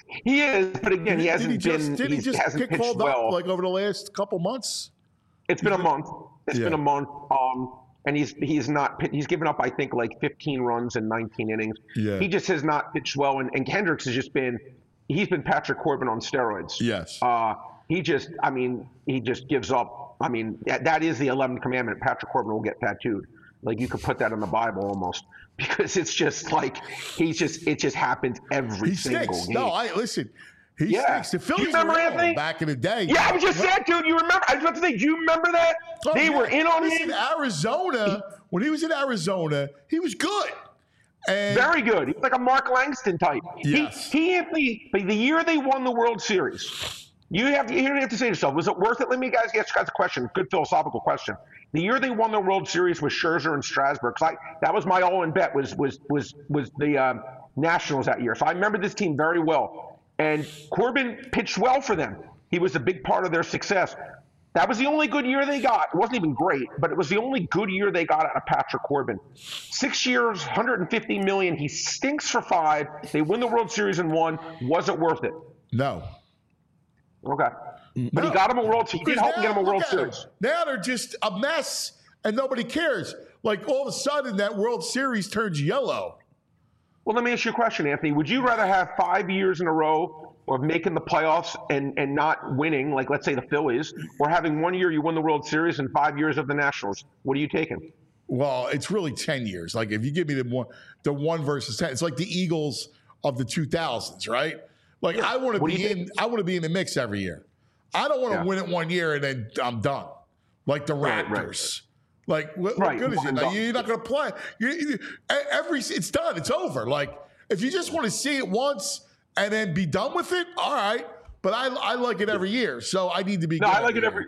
He is, but again, he hasn't been. Did he just hasn't get called well. up like over the last couple months? It's been a month. It's been a month. And he's given up, I think, like 15 runs in 19 innings. Yeah. He just has not pitched well. And Hendricks has just been Patrick Corbin on steroids. Yes. He just gives up. I mean, that is the 11th commandment. Patrick Corbin will get tattooed. Like, you could put that in the Bible almost, because it's just like it just happens every single game. No, listen. He stinks. The Phillies remember Anthony back in the day. Yeah, I was just saying, dude. You remember? I was about to say, do you remember that? They were in on him. Arizona, when he was in Arizona, he was good. And very good. He was like a Mark Langston type. Yes. The year they won the World Series, you have to say to yourself, was it worth it? Let me ask you guys a question. Good philosophical question. The year they won the World Series with Scherzer and Strasburg, that was my all-in bet was the Nationals that year. So I remember this team very well. And Corbin pitched well for them. He was a big part of their success. That was the only good year they got. It wasn't even great, but it was the only good year they got out of Patrick Corbin. 6 years, $150 million. He stinks for 5. They win the World Series in 1. Was it worth it? No. Okay. But he got him a World Series. He did help him get him a World Series. Now they're just a mess, and nobody cares. Like, all of a sudden, that World Series turns yellow. Well, let me ask you a question, Anthony. Would you rather have 5 years in a row of making the playoffs and not winning, like let's say the Phillies, or having 1 year you win the World Series and 5 years of the Nationals? What are you taking? Well, it's really 10 years. Like, if you give me the one versus 10, it's like the Eagles of the 2000s, right? Like, I want to be in the mix every year. I don't want to win it 1 year and then I'm done. Like the Raptors. Like, what good is it? Like, you're not going to play. It's done. It's over. Like, if you just want to see it once and then be done with it, all right. But I like it every year, so I need to be. No, I like it every.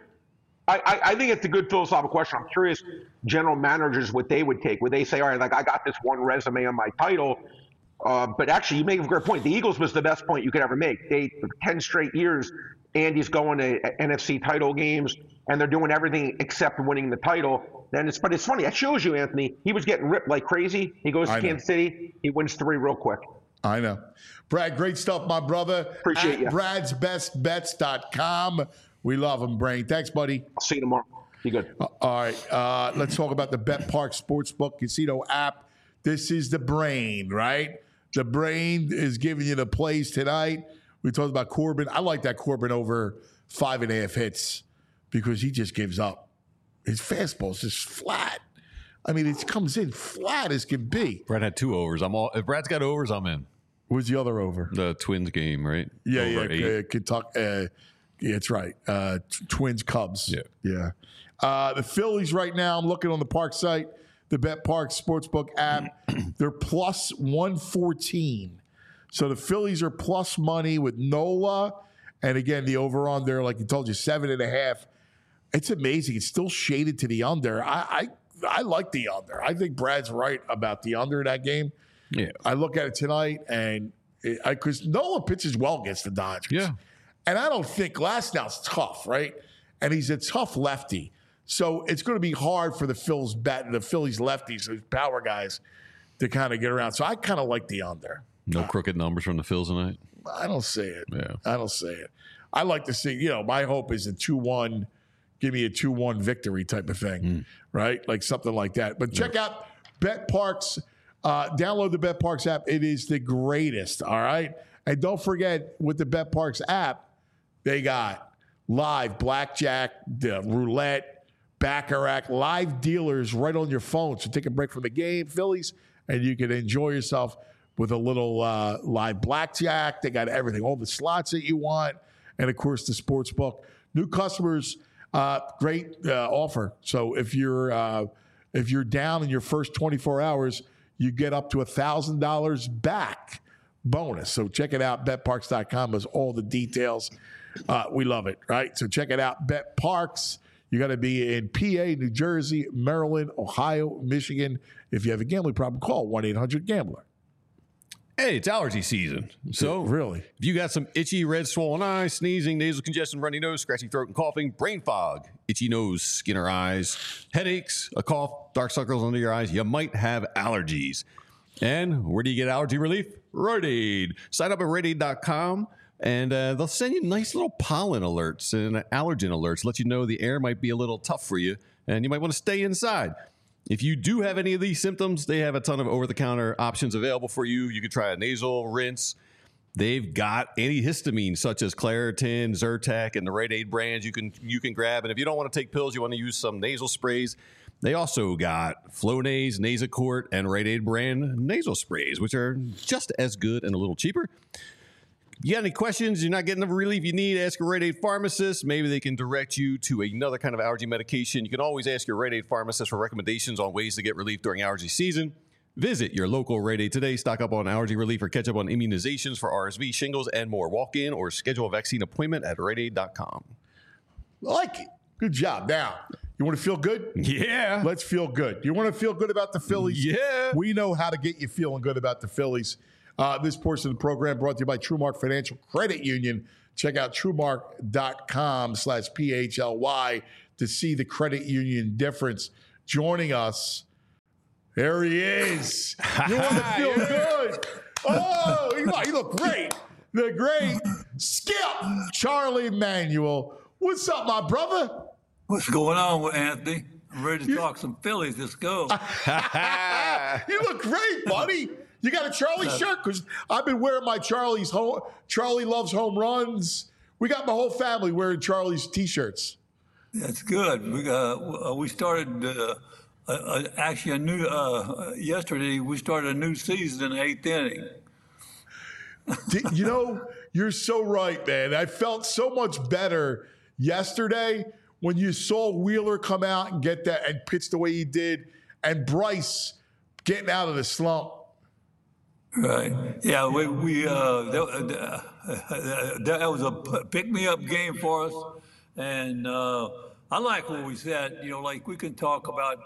I think it's a good philosophical question. I'm curious, general managers, what they would take. Would they say, all right, like, I got this one resume on my title, but actually, you make a great point. The Eagles was the best point you could ever make. For 10 straight years, Andy's going to NFC title games, and they're doing everything except winning the title. But it's funny. That shows you, Anthony. He was getting ripped like crazy. He goes to Kansas City. He wins 3 real quick. I know. Brad, great stuff, my brother. Appreciate you. Brad'sBestBets.com. We love him, Brain. Thanks, buddy. I'll see you tomorrow. Be good. All right. Let's talk about the BetParx Sportsbook Casino app. This is the Brain, right? The Brain is giving you the plays tonight. We talked about Corbin. I like that Corbin over 5.5 hits because he just gives up. His fastball's just flat. I mean, it comes in flat as can be. Brad had 2 overs. If Brad's got overs, I'm in. Where's the other over? The Twins game, right? Yeah. Kentucky. It's right. Twins, Cubs. Yeah. The Phillies right now, I'm looking on the Park site, the BetParx Sportsbook app. They're plus 114. So the Phillies are plus money with Nola. And again, the over-under, like I told you, 7.5. It's amazing. It's still shaded to the under. I like the under. I think Brad's right about the under in that game. Yeah. I look at it tonight, and because Nola pitches well against the Dodgers. Yeah. And I don't think Glasnow's tough, right? And he's a tough lefty. So it's going to be hard for the Phillies lefties, those power guys, to kind of get around. So I kind of like the under. No crooked numbers from the Phils tonight? I don't see it. Yeah. I don't see it. I like to see, my hope is a 2-1, give me a 2-1 victory type of thing, right? Like something like that. But check out BetParx. Download the BetParx app. It is the greatest, all right? And don't forget, with the BetParx app, they got live blackjack, the roulette, baccarat, live dealers right on your phone. So take a break from the game, Phillies, and you can enjoy yourself with a little live blackjack. They got everything, all the slots that you want, and, of course, the sports book. New customers, great offer. So if you're down in your first 24 hours, you get up to $1,000 back bonus. So check it out. BetParx.com has all the details. We love it, right? So check it out. BetParx. You got to be in PA, New Jersey, Maryland, Ohio, Michigan. If you have a gambling problem, call 1-800-GAMBLER. Hey, it's allergy season. So, really, if you got some itchy, red, swollen eyes, sneezing, nasal congestion, runny nose, scratchy throat and coughing, brain fog, itchy nose, skin or eyes, headaches, a cough, dark circles under your eyes, you might have allergies. And where do you get allergy relief? Rite Aid. Sign up at RiteAid.com. And they'll send you nice little pollen alerts and allergen alerts, let you know the air might be a little tough for you, and you might want to stay inside. If you do have any of these symptoms, they have a ton of over-the-counter options available for you. You can try a nasal rinse. They've got antihistamines such as Claritin, Zyrtec, and the Rite Aid brands you can grab. And if you don't want to take pills, you want to use some nasal sprays, they also got Flonase, Nasacort, and Rite Aid brand nasal sprays, which are just as good and a little cheaper. You got any questions? You're not getting the relief you need? Ask a Rite Aid pharmacist. Maybe they can direct you to another kind of allergy medication. You can always ask your Rite Aid pharmacist for recommendations on ways to get relief during allergy season. Visit your local Rite Aid today. Stock up on allergy relief or catch up on immunizations for RSV, shingles, and more. Walk in or schedule a vaccine appointment at RiteAid.com. I like it. Good job. Now, you want to feel good? Yeah. Let's feel good. You want to feel good about the Phillies? Yeah. We know how to get you feeling good about the Phillies. This portion of the program brought to you by TrueMark Financial Credit Union. Check out TrueMark.com/PHLY to see the credit union difference. Joining us, there he is. You want to feel good? Oh, you look great. The great Skip Charlie Manuel. What's up, my brother? What's going on, Anthony? I'm ready to talk some Phillies. Let's go. You look great, buddy. You got a Charlie shirt? Because I've been wearing my Charlie Loves Home Runs. We got my whole family wearing Charlie's T-shirts. That's good. We started yesterday. We started a new season in the 8th inning. You're so right, man. I felt so much better yesterday when you saw Wheeler come out and get that and pitch the way he did, and Bryce getting out of the slump. Right. Yeah. That was a pick-me-up game for us, and I like what we said. Like we can talk about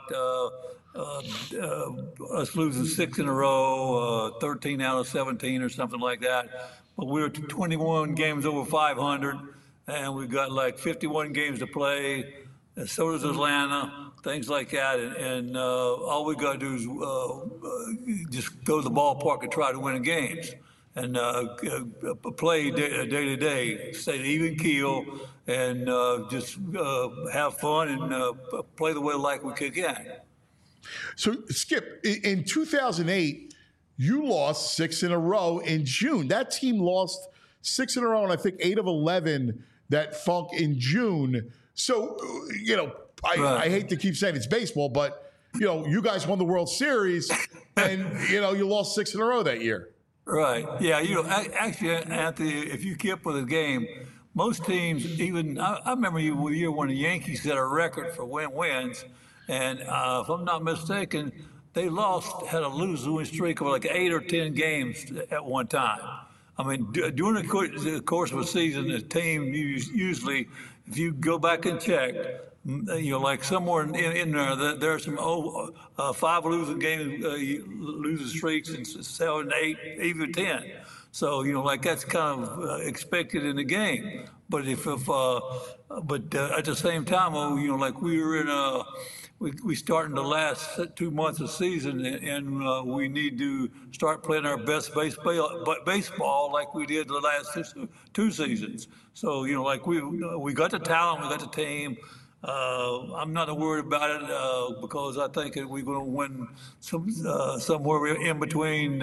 us losing 6 in a row, 13 out of 17 or something like that. But we were 21 games over 500, and we've got like 51 games to play. And so does Atlanta, things like that. And all we got to do is just go to the ballpark and try to win games. And play day to day, stay even keel, and just have fun and play the way like we can. So, Skip, in 2008, you lost 6 in a row in June. That team lost 6 in a row, and I think 8 of 11 that Funk in June. So, I hate to keep saying it's baseball, but, you guys won the World Series, and, you lost 6 in a row that year. Right. Yeah. Actually, Anthony, if you keep with the game, most teams, even I remember the year when the Yankees set a record for wins, and if I'm not mistaken, they had a losing streak of like 8 or 10 games at one time. I mean, during the course of a season, the team usually, if you go back and check, like somewhere in there, there are some 5 losing games, losing streaks, and 7, 8, even 10. So like that's kind of expected in the game. But at the same time, like we were in we starting the last 2 months of season, and we need to start playing our best baseball like we did the last 2 seasons. So like we got the talent, we got the team. I'm not worried about it because I think that we're going to win somewhere in between.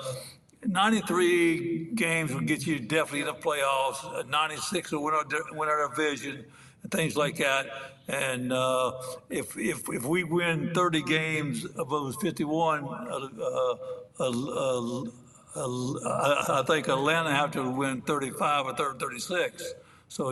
93 games will get you definitely in the playoffs. 96 will win our division and things like that. And if we win 30 games of those 51, I think Atlanta have to win 35 or 36. So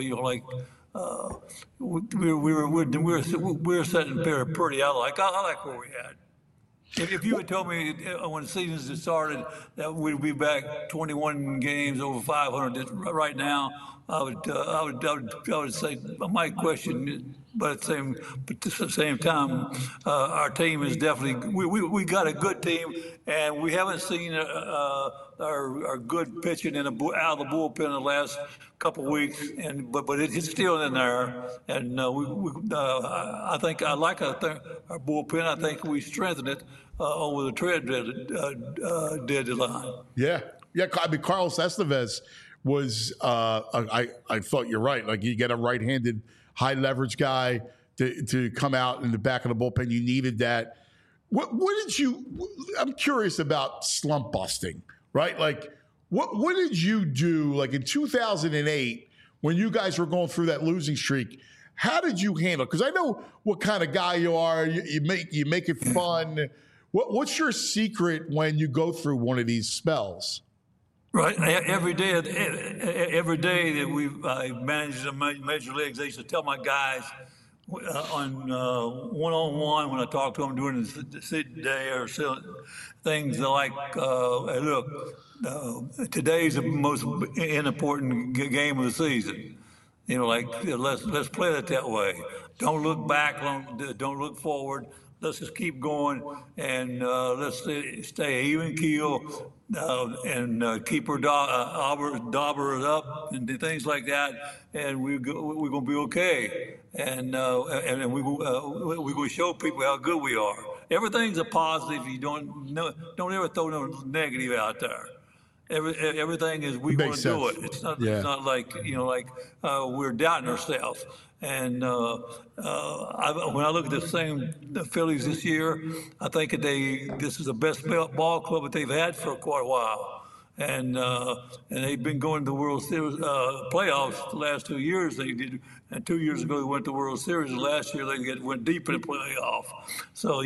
we're setting pretty. I like where we had. If you had told me when the season started that we'd be back 21 games over 500 right now, I would say I might question, but at the same time, our team is definitely we got a good team, and we haven't seen our good pitching out of the bullpen in the last couple of weeks, but it's still in there, and I think our bullpen. I think we strengthened it over the trade deadline. Yeah, Yeah, I mean, Carlos Estevez was. I thought you're right. Like you get a right-handed, high leverage guy to come out in the back of the bullpen. You needed that. What did you? I'm curious about slump busting, right? Like, what did you do? Like in 2008, when you guys were going through that losing streak, how did you handle? Because I know what kind of guy you are. You make it fun. What's your secret when you go through one of these spells? Right. Every day that we managed the major leagues, I used to tell my guys on one-on-one when I talked to them during the sit day or things like, hey, look, today's the most important game of the season. You know, like let's play it that way. Don't look back. Don't look forward. Let's just keep going and let's stay even keel and keep our daubers up and things like that, and we're gonna be okay. And we're gonna show people how good we are. Everything's a positive. You don't ever throw no negative out there. Everything is we're going to do it. It's not like we're doubting ourselves. And when I look at the Phillies this year, I think that this is the best ball club that they've had for quite a while. And they've been going to the World Series playoffs the last 2 years. They did, and 2 years ago they went to the World Series. And last year they went deep in the playoff. So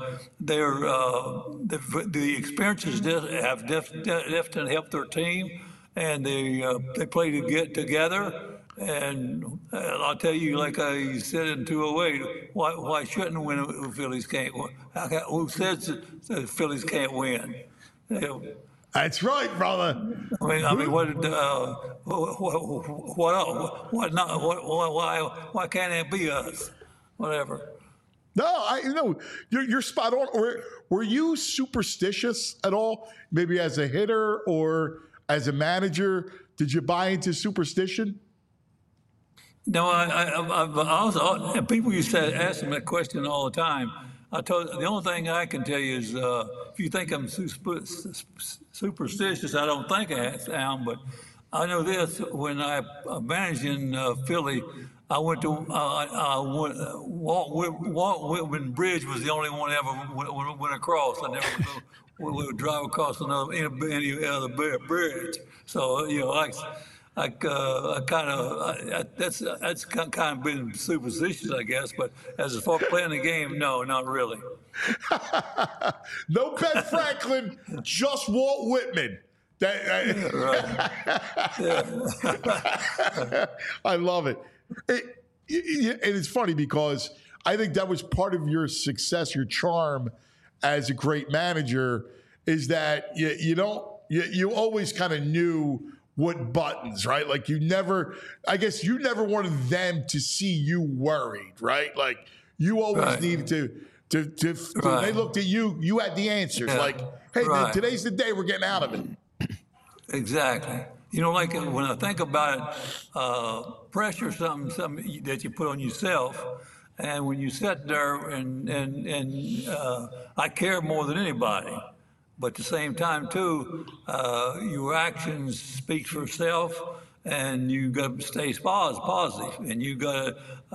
the experiences have definitely helped their team, and they play to get together. And I'll tell you, like I said in 208, why shouldn't win if the Phillies can't win? Who says the Phillies can't win? That's right, brother. I mean, why can't it be us? Whatever. No, you're spot on. Were you superstitious at all? Maybe as a hitter or as a manager, did you buy into superstition? No, I also, people used to ask me that question all the time. The only thing I can tell you is if you think I'm superstitious, I don't think I am, but I know this. When I managed in Philly, I went to Walt Whitman Bridge was the only one ever went across. I never would drive across any other bridge. So that's kind of been superstitious, I guess. But as far as playing the game, no, not really. No Ben Franklin, just Walt Whitman. Right. I love it. And it's funny because I think that was part of your success, your charm as a great manager, is that you always kind of knew what buttons, right? Like you never wanted them to see you worried, right? Like you always needed to they looked at you, you had the answers. Like, hey, today's the day we're getting out of it. Exactly. Like when I think about it, pressure, something that you put on yourself, and when you sit there and I care more than anybody. But at the same time, too, your actions speak for itself, and you got to stay positive, and you got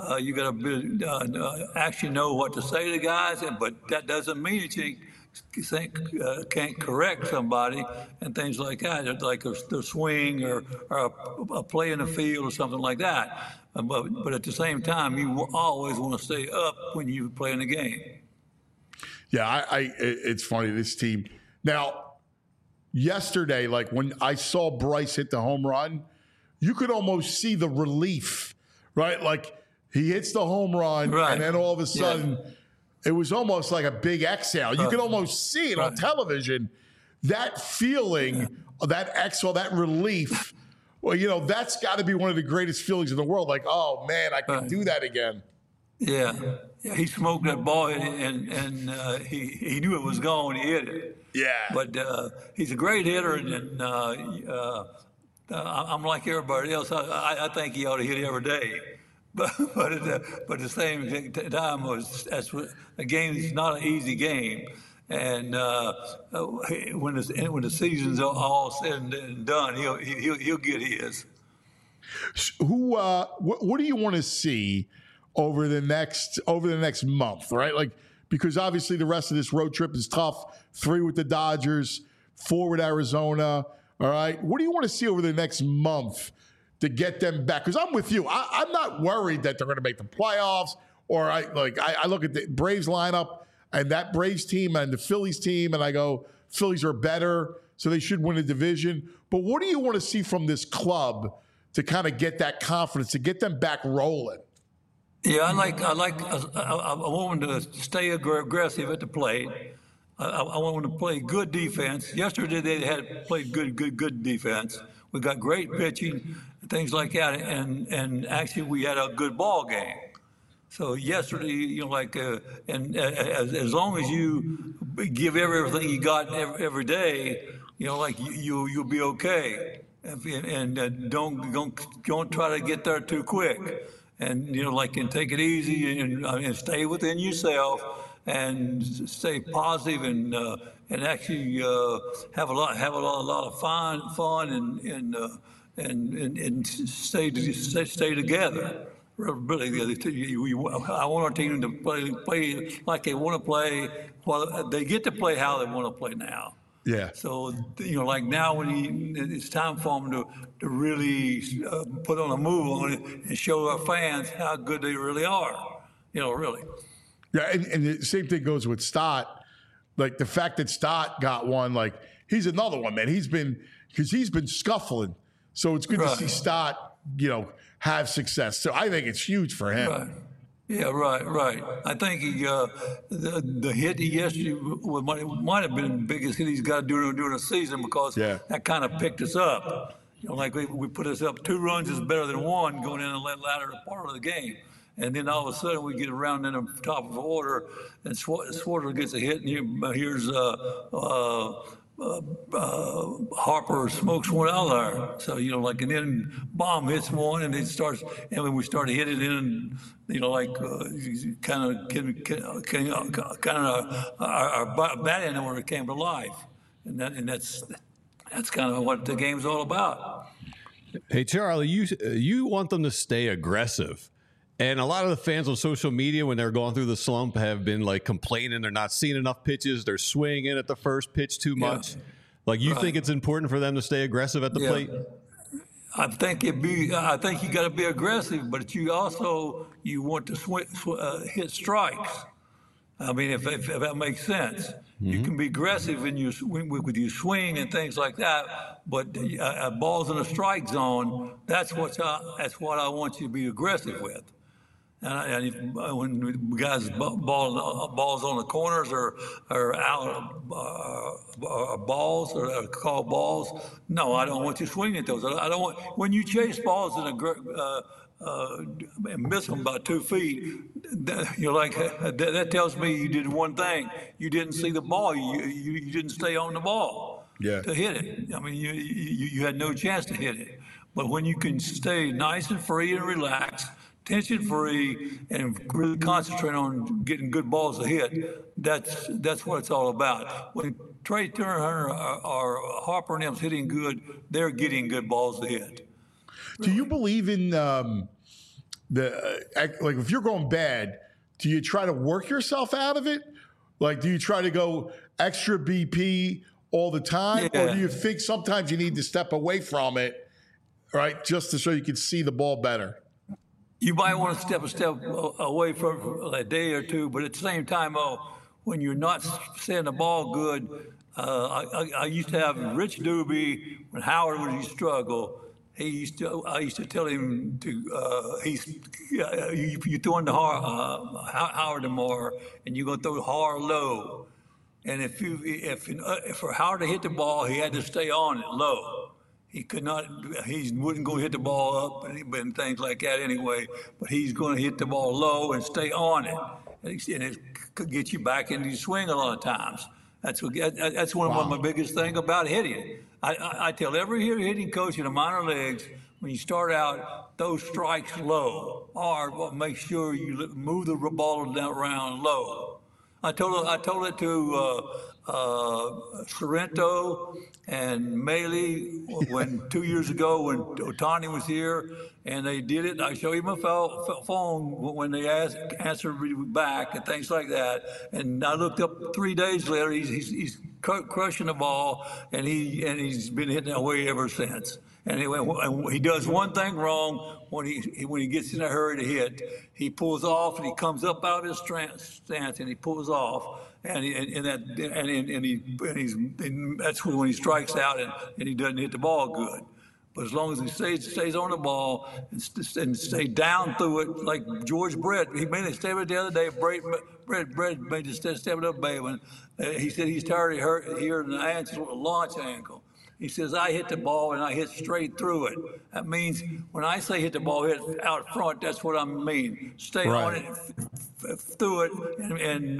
to actually know what to say to guys. But that doesn't mean that you can't correct somebody and things like that, like the swing or a play in the field or something like that. But at the same time, you always want to stay up when you play in the game. Yeah, it's funny, this team. Now, yesterday, like when I saw Bryce hit the home run, you could almost see the relief, right? Like he hits the home run, and then all of a sudden, it was almost like a big exhale. You could almost see it on television. That feeling, that exhale, that relief, well, that's got to be one of the greatest feelings in the world. Like, oh, man, I can do that again. Yeah, he smoked that ball, and he knew it was gone. He hit it. Yeah. But he's a great hitter, and I'm like everybody else. I think he ought to hit every day. But at the same time, the game is not an easy game. And when the season's all said and done, he'll get his. What do you want to see over the next month, right? Like, because obviously the rest of this road trip is tough. 3 with the Dodgers, 4 with Arizona. All right. What do you want to see over the next month to get them back? Because I'm with you. I'm not worried that they're going to make the playoffs. Or I look at the Braves lineup and that Braves team and the Phillies team, and I go, Phillies are better, so they should win a division. But what do you want to see from this club to kind of get that confidence, to get them back rolling? Yeah, I want them to stay aggressive at the plate. I want them to play good defense. Yesterday they had played good defense. We got great pitching, things like that, and actually we had a good ball game. So yesterday, as long as you give everything you got every day, you'll be okay. And don't try to get there too quick. And and take it easy and stay within yourself and stay positive and actually have a lot of fun and stay together. Really, I want our team to play like they want to play. Well, they get to play how they want to play now. Yeah. So like now, when it's time for them to really put on a move on it and show our fans how good they really are. Really. Yeah, and the same thing goes with Stott. Like the fact that Stott got one, like he's another one, man. He's been scuffling. So it's good to see Stott, have success. So I think it's huge for him. Right. Yeah, right. I think the hit yesterday might have been the biggest hit he's got during the season because that kind of picked us up. Like we put us up 2 runs is better than 1 going in the latter part of the game. And then all of a sudden we get around in the top of the order and Swarter gets a hit and here's Harper smokes one out there. So, and then Baum hits one and it starts, and when we started hitting it in, our batting order came to life. And that's kind of what the game's all about. Hey, Charlie, you want them to stay aggressive. And a lot of the fans on social media, when they're going through the slump, have been complaining they're not seeing enough pitches. They're swinging at the first pitch too much. You think it's important for them to stay aggressive at the plate? I think you got to be aggressive, but you want to hit strikes. I mean, if that makes sense, you can be aggressive with your swing and things like that. But balls in a strike zone, that's what I want you to be aggressive with. And when guys balls on the corners or out balls or call balls, no, I don't want you swinging at those. I don't want when you chase balls and miss them by 2 feet. That tells me you did one thing. You didn't see the ball. You didn't stay on the ball to hit it. I mean, you had no chance to hit it. But when you can stay nice and free and relaxed, tension-free, and really concentrate on getting good balls to hit, that's what it's all about. When Trey Turner or Harper and them's hitting good, they're getting good balls to hit. Do you believe in if you're going bad, do you try to work yourself out of it? Do you try to go extra BP all the time? Or do you think sometimes you need to step away from it, right, just so you can see the ball better? You might want to step a step away for a day or two, but at the same time, when you're not seeing the ball good, I used to have Rich Doobie when Howard would struggle. I used to tell him to you throw into Howard tomorrow, and you're gonna throw hard low, and if for Howard to hit the ball, he had to stay on it low. He wouldn't go hit the ball up and things like that anyway, but he's going to hit the ball low and stay on it. And it could get you back into your swing a lot of times. That's one of my biggest things about hitting. I tell every hitting coach in the minor leagues, when you start out, those strikes low, or make sure you move the ball down around low. I told it to Sorrento and Maley when 2 years ago when Ohtani was here, and they did it. I showed him a phone when they answered back and things like that. And I looked up 3 days later. He's crushing the ball, and he's been hitting that way ever since. And he does one thing wrong when he gets in a hurry to hit. He pulls off and he comes up out of his stance and he pulls off, and that's when he strikes out and he doesn't hit the ball good. But as long as he stays on the ball and stay down through it, like George Brett, he made a statement the other day. Brett made a statement up Bay when he said he's tired of hearing the launch ankle. He says, I hit the ball and I hit straight through it. That means when I say hit the ball, hit out front, that's what I mean. Stay on it, through it, and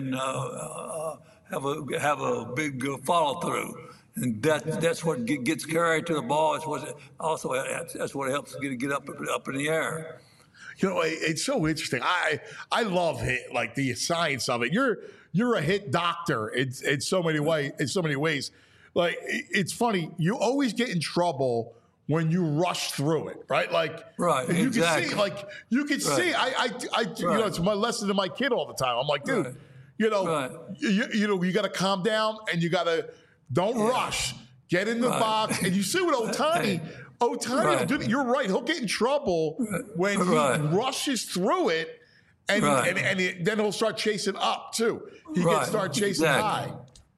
have a big follow through. And that's what gets carried to the ball. That's what helps get up in the air. You know, it's so interesting. I love hit, like the science of it. You're a hit doctor in so many ways. Like, it's funny. You always get in trouble when you rush through it, right? Like, right, you exactly. You can see. You know, it's my lesson to my kid all the time. I'm like, dude, you know, you got to calm down and you got to don't rush. Get in the box, and you see what Ohtani will do. You're right. He'll get in trouble when he rushes through it, and then he'll start chasing up too. He can start chasing high.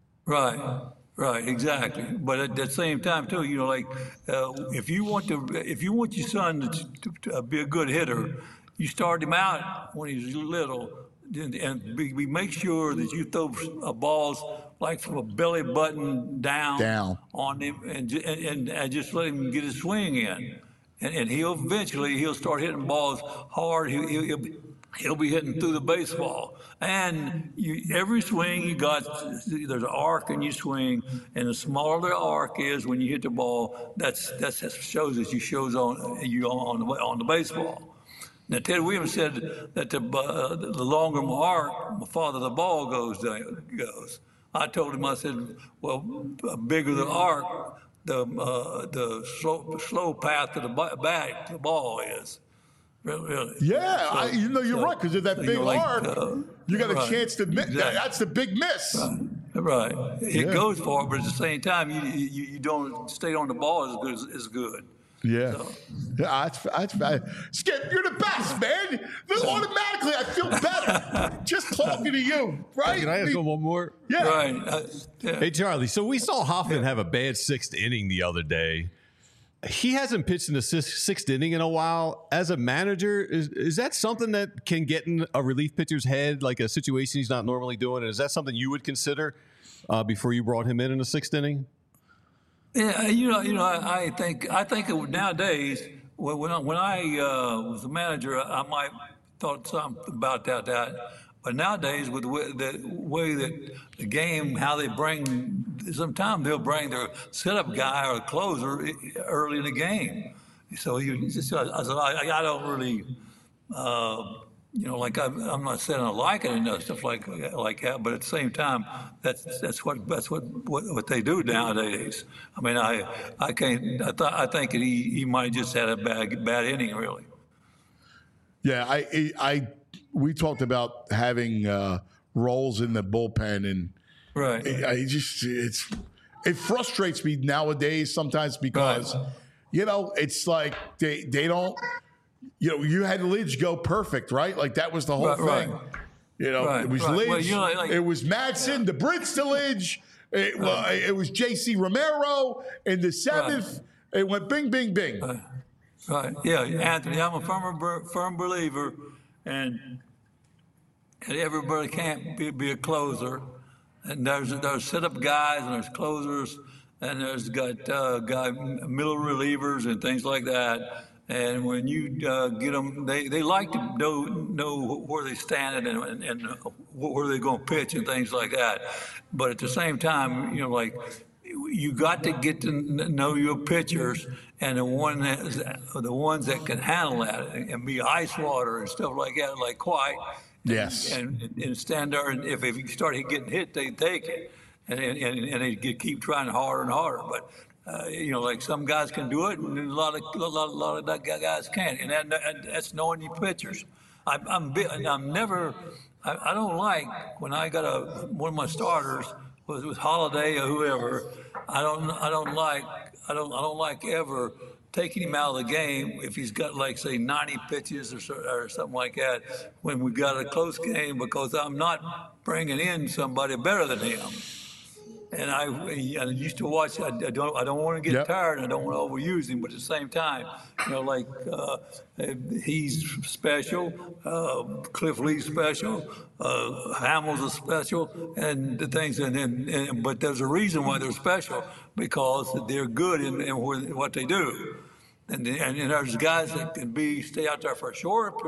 Right, exactly. But at the same time, too, you know, like if you want your son to be a good hitter, you start him out when he's little, and we make sure that you throw balls like from a belly button down on him, and just let him get his swing in, and he'll eventually start hitting balls hard. He'll be hitting through the baseball. And every swing you got, there's an arc in your swing, and the smaller the arc is when you hit the ball, that shows that you shows on the baseball. Now, Ted Williams said that the longer my arc, the farther the ball goes. I told him, I said, well, the bigger the arc, the slow path to the ball is. Really. Yeah, so, you're right, because of that big arc, you got a chance to miss. Exactly. That's the big miss. Right. It goes for it, but at the same time, you don't stay on the ball as good. Yeah. So. Yeah, that's Skip, you're the best, man. Automatically, I feel better just talking to you, right? Can I ask one more? Yeah. Right. Hey, Charlie, so we saw Hoffman have a bad sixth inning the other day. He hasn't pitched in the sixth inning in a while. As a manager, is that something that can get in a relief pitcher's head, like a situation he's not normally doing? And is that something you would consider before you brought him in the sixth inning? Yeah, I think it, nowadays when I was a manager, I might thought something about that. But nowadays, with the way that the game, how they sometimes they'll bring their setup guy or closer early in the game. So I don't really, like I'm not saying I like it and stuff like that. But at the same time, that's what they do nowadays. I mean, I think he might just had a bad inning really. Yeah, we talked about having roles in the bullpen, and it frustrates me nowadays sometimes because it's like they don't. You had Lidge go perfect, right? Like that was the whole thing. It was Lidge. Well, it was Madsen, the Brits to Lidge. It was J.C. Romero in the seventh. It went bing, bing, bing. Right. Yeah, Anthony, I'm a firm believer, and everybody can't be a closer. And there's setup guys, and there's closers, and there's got middle relievers and things like that. And when you get them, they like to know where they stand and where they're going to pitch and things like that. But at the same time, you got to get to know your pitchers and the ones that can handle that and be ice water and stuff like that, like White. Yes. And stand there, and if you start getting hit, they take it, and they keep trying harder and harder. But like some guys can do it, and a lot of guys can't, and that's knowing your pitchers. I don't like when I got one of my starters with Holiday or whoever. I don't like ever taking him out of the game if he's got, like, say, 90 pitches or something like that when we've got a close game, because I'm not bringing in somebody better than him. And I used to watch. I don't want to get tired. I don't want to overuse him, but at the same time, he's special. Cliff Lee's special. Hamels is special, and the things. But there's a reason why they're special, because they're good in what they do. And there's guys that can stay out there for a short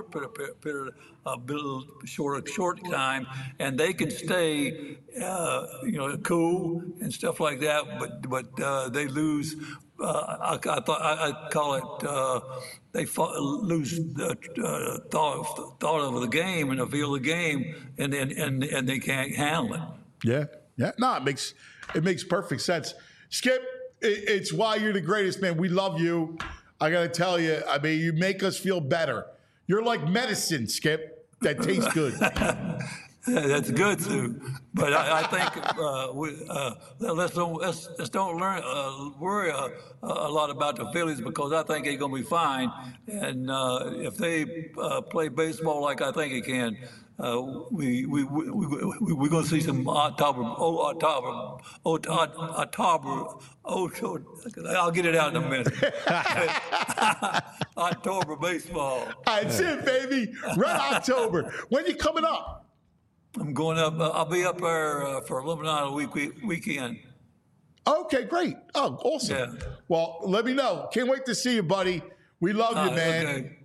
time, and they can stay, cool and stuff like that. But they lose. I call it. They lose thought of the game and the feel of the game, and they can't handle it. Yeah. No, it makes perfect sense. Skip. It's why you're the greatest, man. We love you. I got to tell you, I mean, you make us feel better. You're like medicine, Skip, that tastes good. That's good, too. But I think let's don't worry a lot about the Phillies, because I think they're going to be fine. And if they play baseball like I think they can, we're going to see some October. I'll get it out in a minute. October baseball. That's it, baby. Red October. When you coming up? I'm going up. I'll be up there for Illuminati weekend. Okay, great. Oh, awesome. Yeah. Well, let me know. Can't wait to see you, buddy. We love you, man. Okay.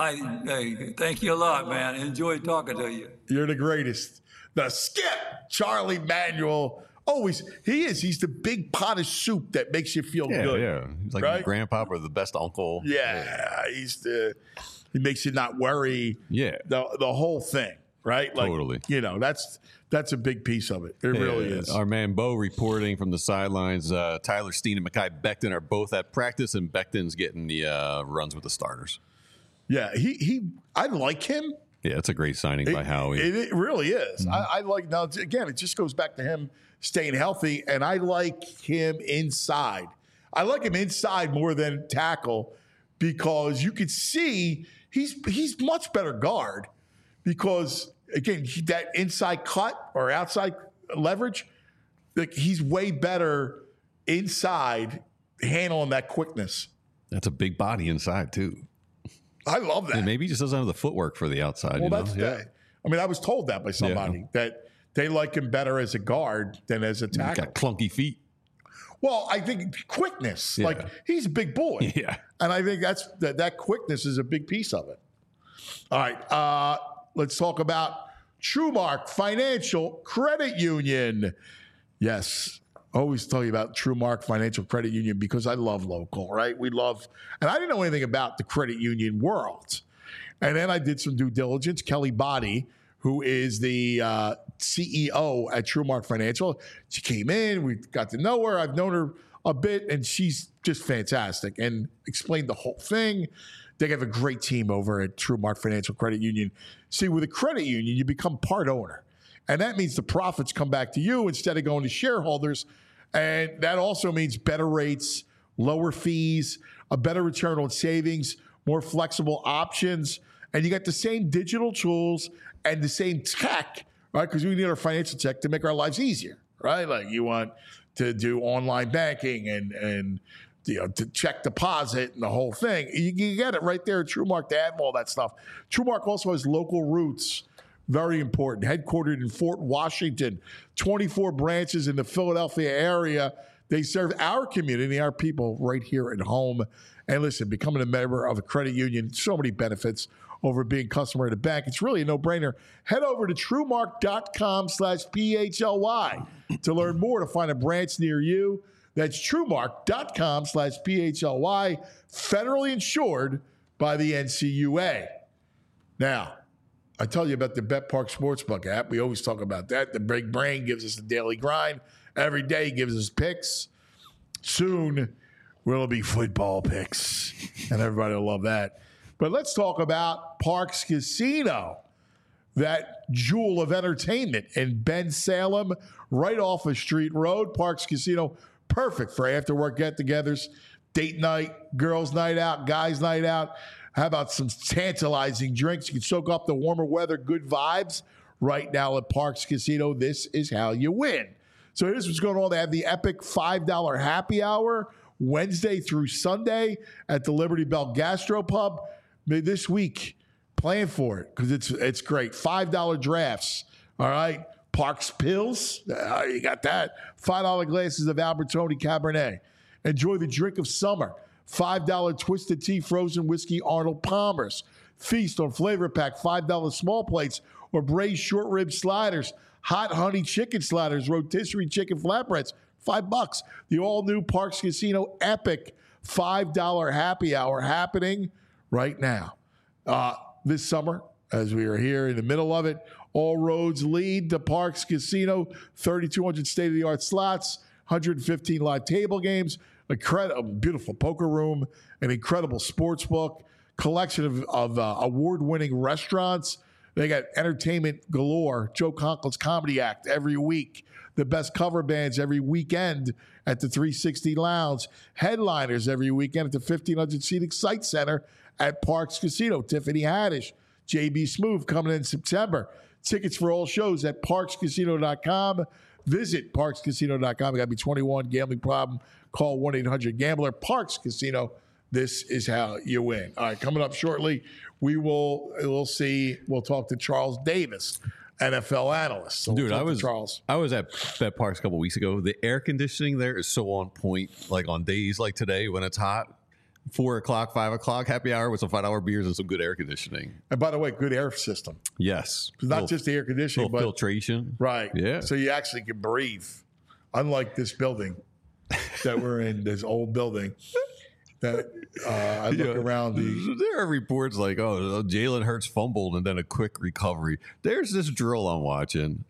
Hey, thank you a lot, man. Enjoyed talking to you. You're the greatest. The Skip, Charlie Manuel. Always, he is. He's the big pot of soup that makes you feel good. Yeah, he's like your grandpa or the best uncle. Yeah, he makes you not worry. Yeah, the whole thing, right? Like, totally. That's a big piece of it. It really is. Our man Bo reporting from the sidelines. Tyler Steen and Mekhi Becton are both at practice, and Becton's getting the runs with the starters. Yeah, I like him. Yeah, it's a great signing by Howie. It really is. Mm-hmm. I like, now again, it just goes back to him staying healthy, and I like him inside. I like him inside more than tackle, because you could see he's much better guard, because again, that inside cut or outside leverage, like, he's way better inside handling that quickness. That's a big body inside too. I love that. And maybe he just doesn't have the footwork for the outside. Well, that's that. I mean, I was told that by somebody that they like him better as a guard than as a tackle. He's got clunky feet. Well, I think quickness. Yeah. Like, he's a big boy. Yeah. And I think that quickness is a big piece of it. All right. Let's talk about TrueMark Financial Credit Union. Yes. Always tell you about TrueMark Financial Credit Union, because I love local, right? We love, and I didn't know anything about the credit union world. And then I did some due diligence. Kelly Body, who is the CEO at TrueMark Financial, she came in, we got to know her. I've known her a bit, and she's just fantastic and explained the whole thing. They have a great team over at TrueMark Financial Credit Union. See, with a credit union, you become part owner. And that means the profits come back to you instead of going to shareholders. And that also means better rates, lower fees, a better return on savings, more flexible options. And you got the same digital tools and the same tech, right? Because we need our financial tech to make our lives easier, right? Like, you want to do online banking and to check deposit and the whole thing. You get it right there at TrueMark to have all that stuff. TrueMark also has local roots. Very important. Headquartered in Fort Washington, 24 branches in the Philadelphia area. They serve our community, our people right here at home. And listen, becoming a member of a credit union, so many benefits over being a customer at a bank. It's really a no-brainer. Head over to TrueMark.com/PHLY to learn more, to find a branch near you. That's TrueMark.com/PHLY, federally insured by the NCUA. Now, I tell you about the BetPark Sportsbook app. We always talk about that. The Big Brain gives us the daily grind. Every day gives us picks. Soon, will be football picks, and everybody will love that. But let's talk about Parx Casino, that jewel of entertainment in Ben Salem, right off of Street Road. Parx Casino, perfect for after-work get-togethers, date night, girls' night out, guys' night out. How about some tantalizing drinks? You can soak up the warmer weather, good vibes. Right now at Parx Casino, this is how you win. So here's what's going on. They have the epic $5 happy hour Wednesday through Sunday at the Liberty Bell Gastropub. This week, plan for it because it's great. $5 drafts, all right? Parks Pills, you got that. $5 glasses of Albertoni Cabernet. Enjoy the drink of summer. $5 Twisted Tea Frozen Whiskey Arnold Palmer's. Feast on Flavor Pack, $5 small plates or braised short rib sliders. Hot honey chicken sliders, rotisserie chicken flatbreads, $5. The all-new Parx Casino epic $5 happy hour happening right now. This summer, as we are here in the middle of it, all roads lead to Parx Casino. 3,200 state-of-the-art slots, 115 live table games, a beautiful poker room, an incredible sports book, collection of award-winning restaurants. They got entertainment galore. Joe Conklin's Comedy Act every week. The best cover bands every weekend at the 360 Lounge. Headliners every weekend at the 1,500-seat Excite Center at Parx Casino. Tiffany Haddish, JB Smoove coming in September. Tickets for all shows at parxcasino.com. Visit parxcasino.com. You got to be 21. Gambling problem, call 1-800-GAMBLER. Parx Casino, this is how you win. All right, coming up shortly, we'll talk to Charles Davis, NFL analyst. So Dude, I was at BetParx a couple weeks ago. The air conditioning there is so on point. Like on days like today when it's hot, 4 o'clock, 5 o'clock, happy hour with some $5 beers and some good air conditioning. And by the way, good air system. Yes, Not just the air conditioning, but filtration. Right. Yeah. So you actually can breathe. Unlike this building that we're in, this old building. That I look around there are reports like, oh, Jalen Hurts fumbled and then a quick recovery. There's this drill I'm watching.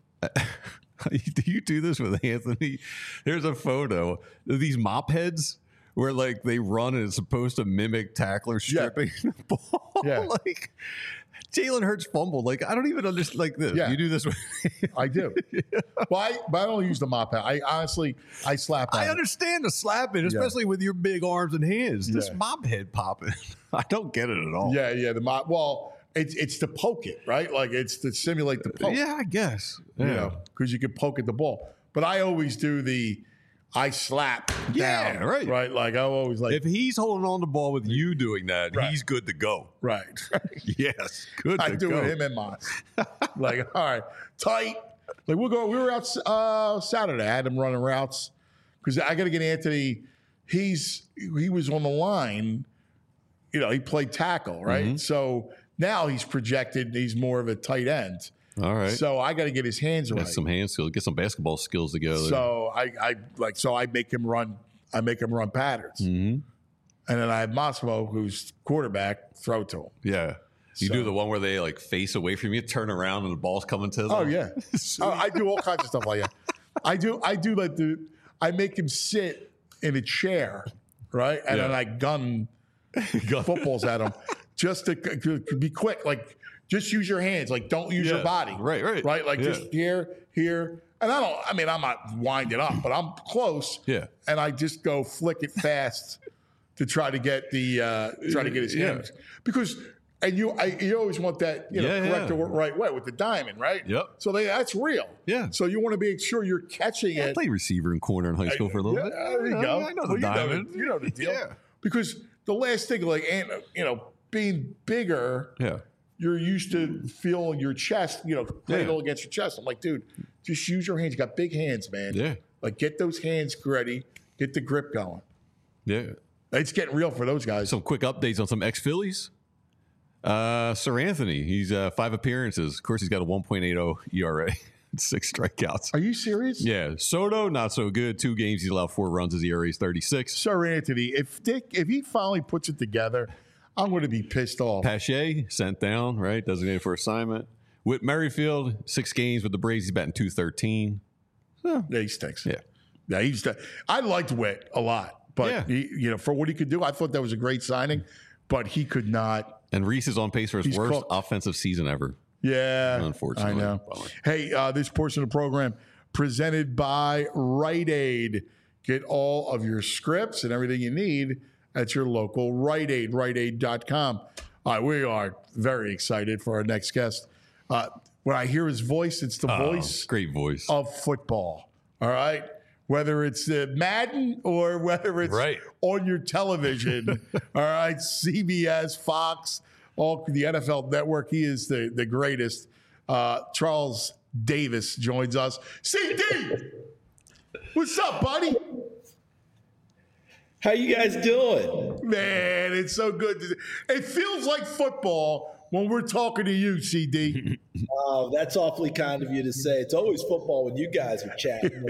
Do you do this with Anthony? There's a photo of these mop heads where like they run and it's supposed to mimic tacklers stripping the ball. Yeah. Like Jalen Hurts fumbled. Like I don't even understand like this. Yeah. You do this with I do. Well, but I don't use the mop head. I slap on I it. understand the slapping, especially with your big arms and hands. This mop head popping. I don't get it at all. Yeah, the mop. Well, it's to poke it, right? Like it's to simulate the poke. Yeah, I guess. You know, because you can poke at the ball. But I always do I slap down. Right. Right? Like I always like. If he's holding on the ball with you doing that, Right. he's good to go. Right. Yes, good I to do go. it him and mine. Like, all right, tight. Like we were out Saturday. I had him running routes because I got to get Anthony. He was on the line. You know, he played tackle, right? Mm-hmm. So now he's projected. He's more of a tight end. All right. So I got to get his hands right. Get some hand skills, get some basketball skills together. So I make him run. I make him run patterns. Mm-hmm. And then I have Massimo, who's quarterback, throw to him. Yeah. You So- do the one where they like face away from you, turn around, and the ball's coming to them. Oh yeah, I do all kinds of stuff like that. I do like I make him sit in a chair, right, and then I gun footballs at him just to be quick. Like just use your hands. Like don't use your body. Right. Like just here. And I'm not winding up, but I'm close. Yeah. And I just go flick it fast to try to get his hands because. And you always want that, correct the right way with the diamond, right? Yep. So that's real. Yeah. So you want to make sure you're catching I it. played receiver and corner in high school for a little bit. There you go. I know the diamond. You know the deal. Yeah. Because the last thing, like, being bigger, you're used to feeling your chest, cradle against your chest. I'm like, dude, just use your hands. You got big hands, man. Yeah. Like, get those hands ready. Get the grip going. Yeah. It's getting real for those guys. Some quick updates on some ex-Phillies. Sir Anthony, he's 5 appearances. Of course, he's got a 1.80 ERA, 6 strikeouts. Are you serious? Yeah. Soto, not so good. 2 games, he's allowed 4 runs. His ERA is 36. Sir Anthony, if he finally puts it together, I'm going to be pissed off. Pache sent down, right? Designated for assignment. Whit Merrifield, 6 games with the Braves. He's batting .213. Yeah, he stinks. Yeah. I liked Whit a lot, but Yeah. for what he could do, I thought that was a great signing. But he could not. And Reese is on pace for his He's worst cooked. offensive season ever. Yeah, Unfortunately. I know. Bummer. Hey, this portion of the program presented by Rite Aid. Get all of your scripts and everything you need at your local Rite Aid, riteaid.com. We are very excited for our next guest. When I hear his voice, it's the voice Great voice. of football. All right? Whether it's Madden or whether it's Right. on your television. All right? CBS, Fox, all the NFL Network. He is the greatest. Charles Davis joins us. CD! What's up, buddy? How you guys doing? Man, it's so good. It feels like football when we're talking to you, CD. Oh, that's awfully kind of you to say. It's always football when you guys are chatting.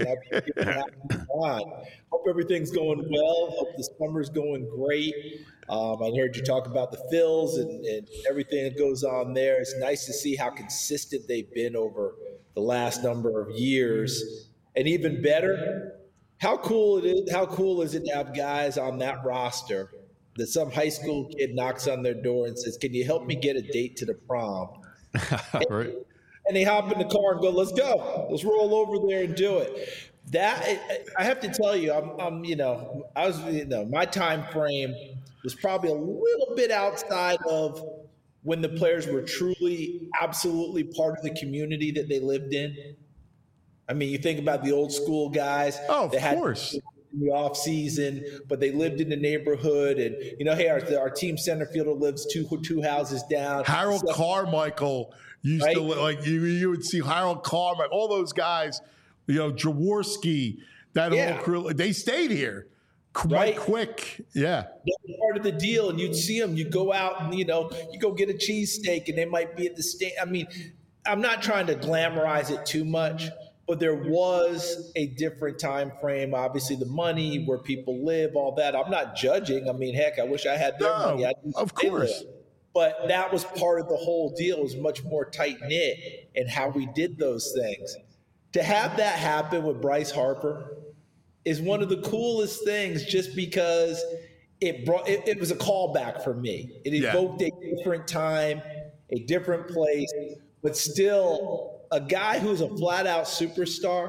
Hope everything's going well. Hope the summer's going great. I heard you talk about the Phils and everything that goes on there. It's nice to see how consistent they've been over the last number of years. And even better, how cool is it to have guys on that roster that some high school kid knocks on their door and says, "Can you help me get a date to the prom?" Right. And they hop in the car and go, "Let's go. Let's roll over there and do it." That I have to tell you, my time frame was probably a little bit outside of when the players were truly, absolutely part of the community that they lived in. I mean, you think about the old school guys. Oh, of course. In the off season, but they lived in the neighborhood, and hey, our team center fielder lives two houses down. Harold Carmichael used Right? to like you would see Harold Carmichael, all those guys, Jaworski, that Yeah. whole crew. They stayed here quite Right. quick. Yeah. That was part of the deal, and you'd see them. You go out and you go get a cheesesteak, and they might be at the stand. I mean, I'm not trying to glamorize it too much, but there was a different time frame. Obviously, the money, where people live, all that. I'm not judging. I mean, heck, I wish I had their No, money. of course. But that was part of the whole deal. It was much more tight knit in how we did those things. To have that happen with Bryce Harper is one of the coolest things, just because it was a callback for me. It evoked a different time, a different place, but still a guy who's a flat out superstar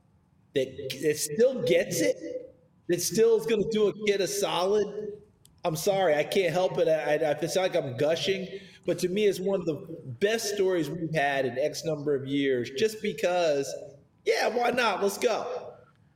that still gets it, that still is going to do a kid a solid. I'm sorry, I can't help it. It's like I'm gushing, but to me, it's one of the best stories we've had in X number of years, just because, why not? Let's go.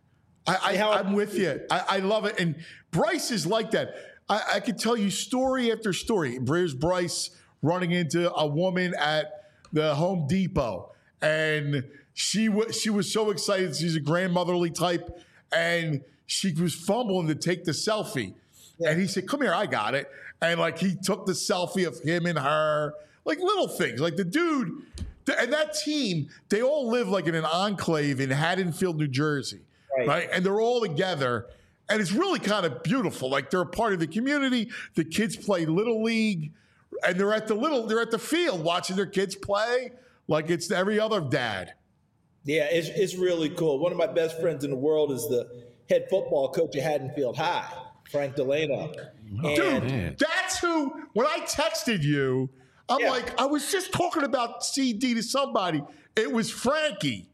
I'm with you. I love it. And Bryce is like that. I could tell you story after story. There's Bryce running into a woman at the Home Depot, and she was so excited. She's a grandmotherly type, and she was fumbling to take the selfie. Yeah. And he said, "Come here, I got it." And like he took the selfie of him and her, like little things. Like the dude and that team, they all live like in an enclave in Haddonfield, New Jersey. Right. And they're all together. And it's really kind of beautiful. Like they're a part of the community. The kids play Little League, and they're at the field watching their kids play like it's every other dad. Yeah, it's really cool. One of my best friends in the world is the head football coach at Haddonfield High, Frank Delano. Dude, that's who, when I texted you, I'm like, I was just talking about CD to somebody. It was Frankie.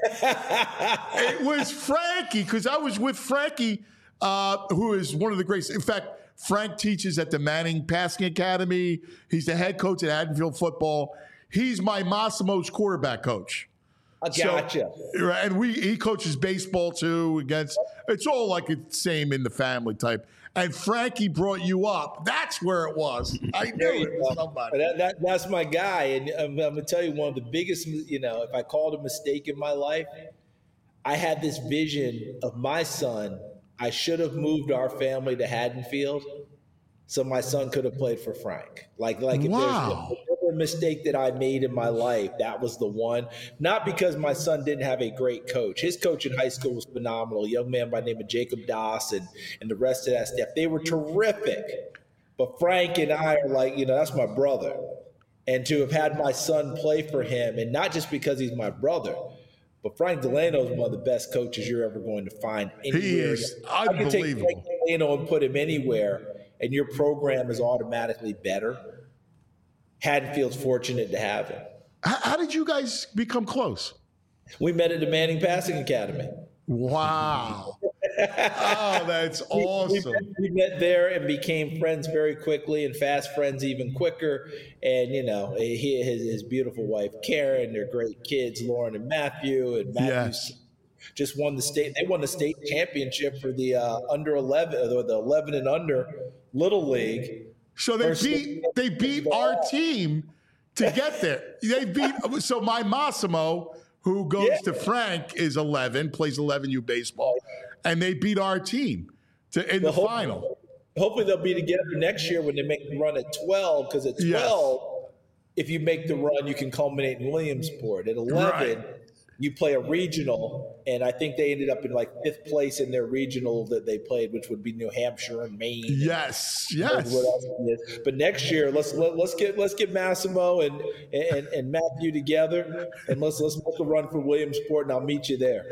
It was Frankie, because I was with Frankie, who is one of the greatest. In fact, Frank teaches at the Manning Passing Academy. He's the head coach at Haddonfield football. He's my Massimo's quarterback coach. I gotcha. So, and he coaches baseball too. It's all like it's same in the family type. And Frankie brought you up. That's where it was. I knew it was somebody. That's my guy. And I'm going to tell you, one of the biggest, if I called a mistake in my life, I had this vision of my son. I should have moved our family to Haddonfield so my son could have played for Frank. Like if there's a mistake that I made in my life, that was the one. Not because my son didn't have a great coach. His coach in high school was phenomenal. A young man by the name of Jacob Doss and the rest of that staff. They were terrific. But Frank and I are like, that's my brother. And to have had my son play for him, and not just because he's my brother, but Frank Delano is one of the best coaches you're ever going to find anywhere. He is unbelievable. I can take Frank Delano and put him anywhere, and your program is automatically better. Haddonfield's fortunate to have him. How did you guys become close? We met at the Manning Passing Academy. Wow. Oh, that's awesome. We met there and became friends very quickly, and fast friends even quicker. And, his beautiful wife, Karen, their great kids, Lauren and Matthew. And Matthew just won the state. They won the state championship for the under 11, or the 11 and under Little League. So they beat our team to get there. So my Massimo, who goes to Frank, is 11, plays 11U baseball, and they beat our team in the final. Hopefully they'll be together next year when they make the run at 12, because at 12, if you make the run, you can culminate in Williamsport. At 11, you play a regional, and I think they ended up in like 5th place in their regional that they played, which would be New Hampshire and Maine. Yes. But next year, let's get Massimo and Matthew together, and let's make a run for Williamsport, and I'll meet you there.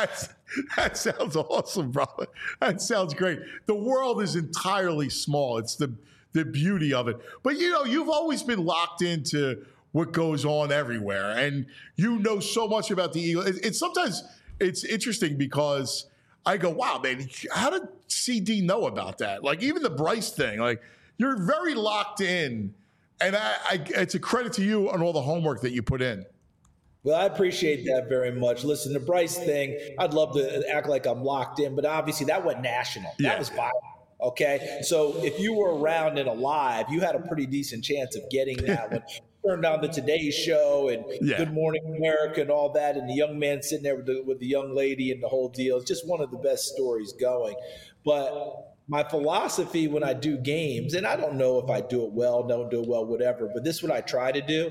That sounds awesome, brother. That sounds great. The world is entirely small. It's the beauty of it. But you've always been locked into what goes on everywhere, and so much about the Eagles. It's sometimes it's interesting because I go, wow, man, how did CD know about that? Like, even the Bryce thing, like, you're very locked in, and it's a credit to you on all the homework that you put in. Well, I appreciate that very much. Listen, the Bryce thing, I'd love to act like I'm locked in, but obviously that went national. That was viral. Okay, so if you were around and alive, you had a pretty decent chance of getting that one. Turned on the Today Show and Good Morning America and all that, and the young man sitting there with the young lady and the whole deal. It's just one of the best stories going. But my philosophy when I do games, and I don't know if I do it well, don't do it well, whatever, but this is what I try to do.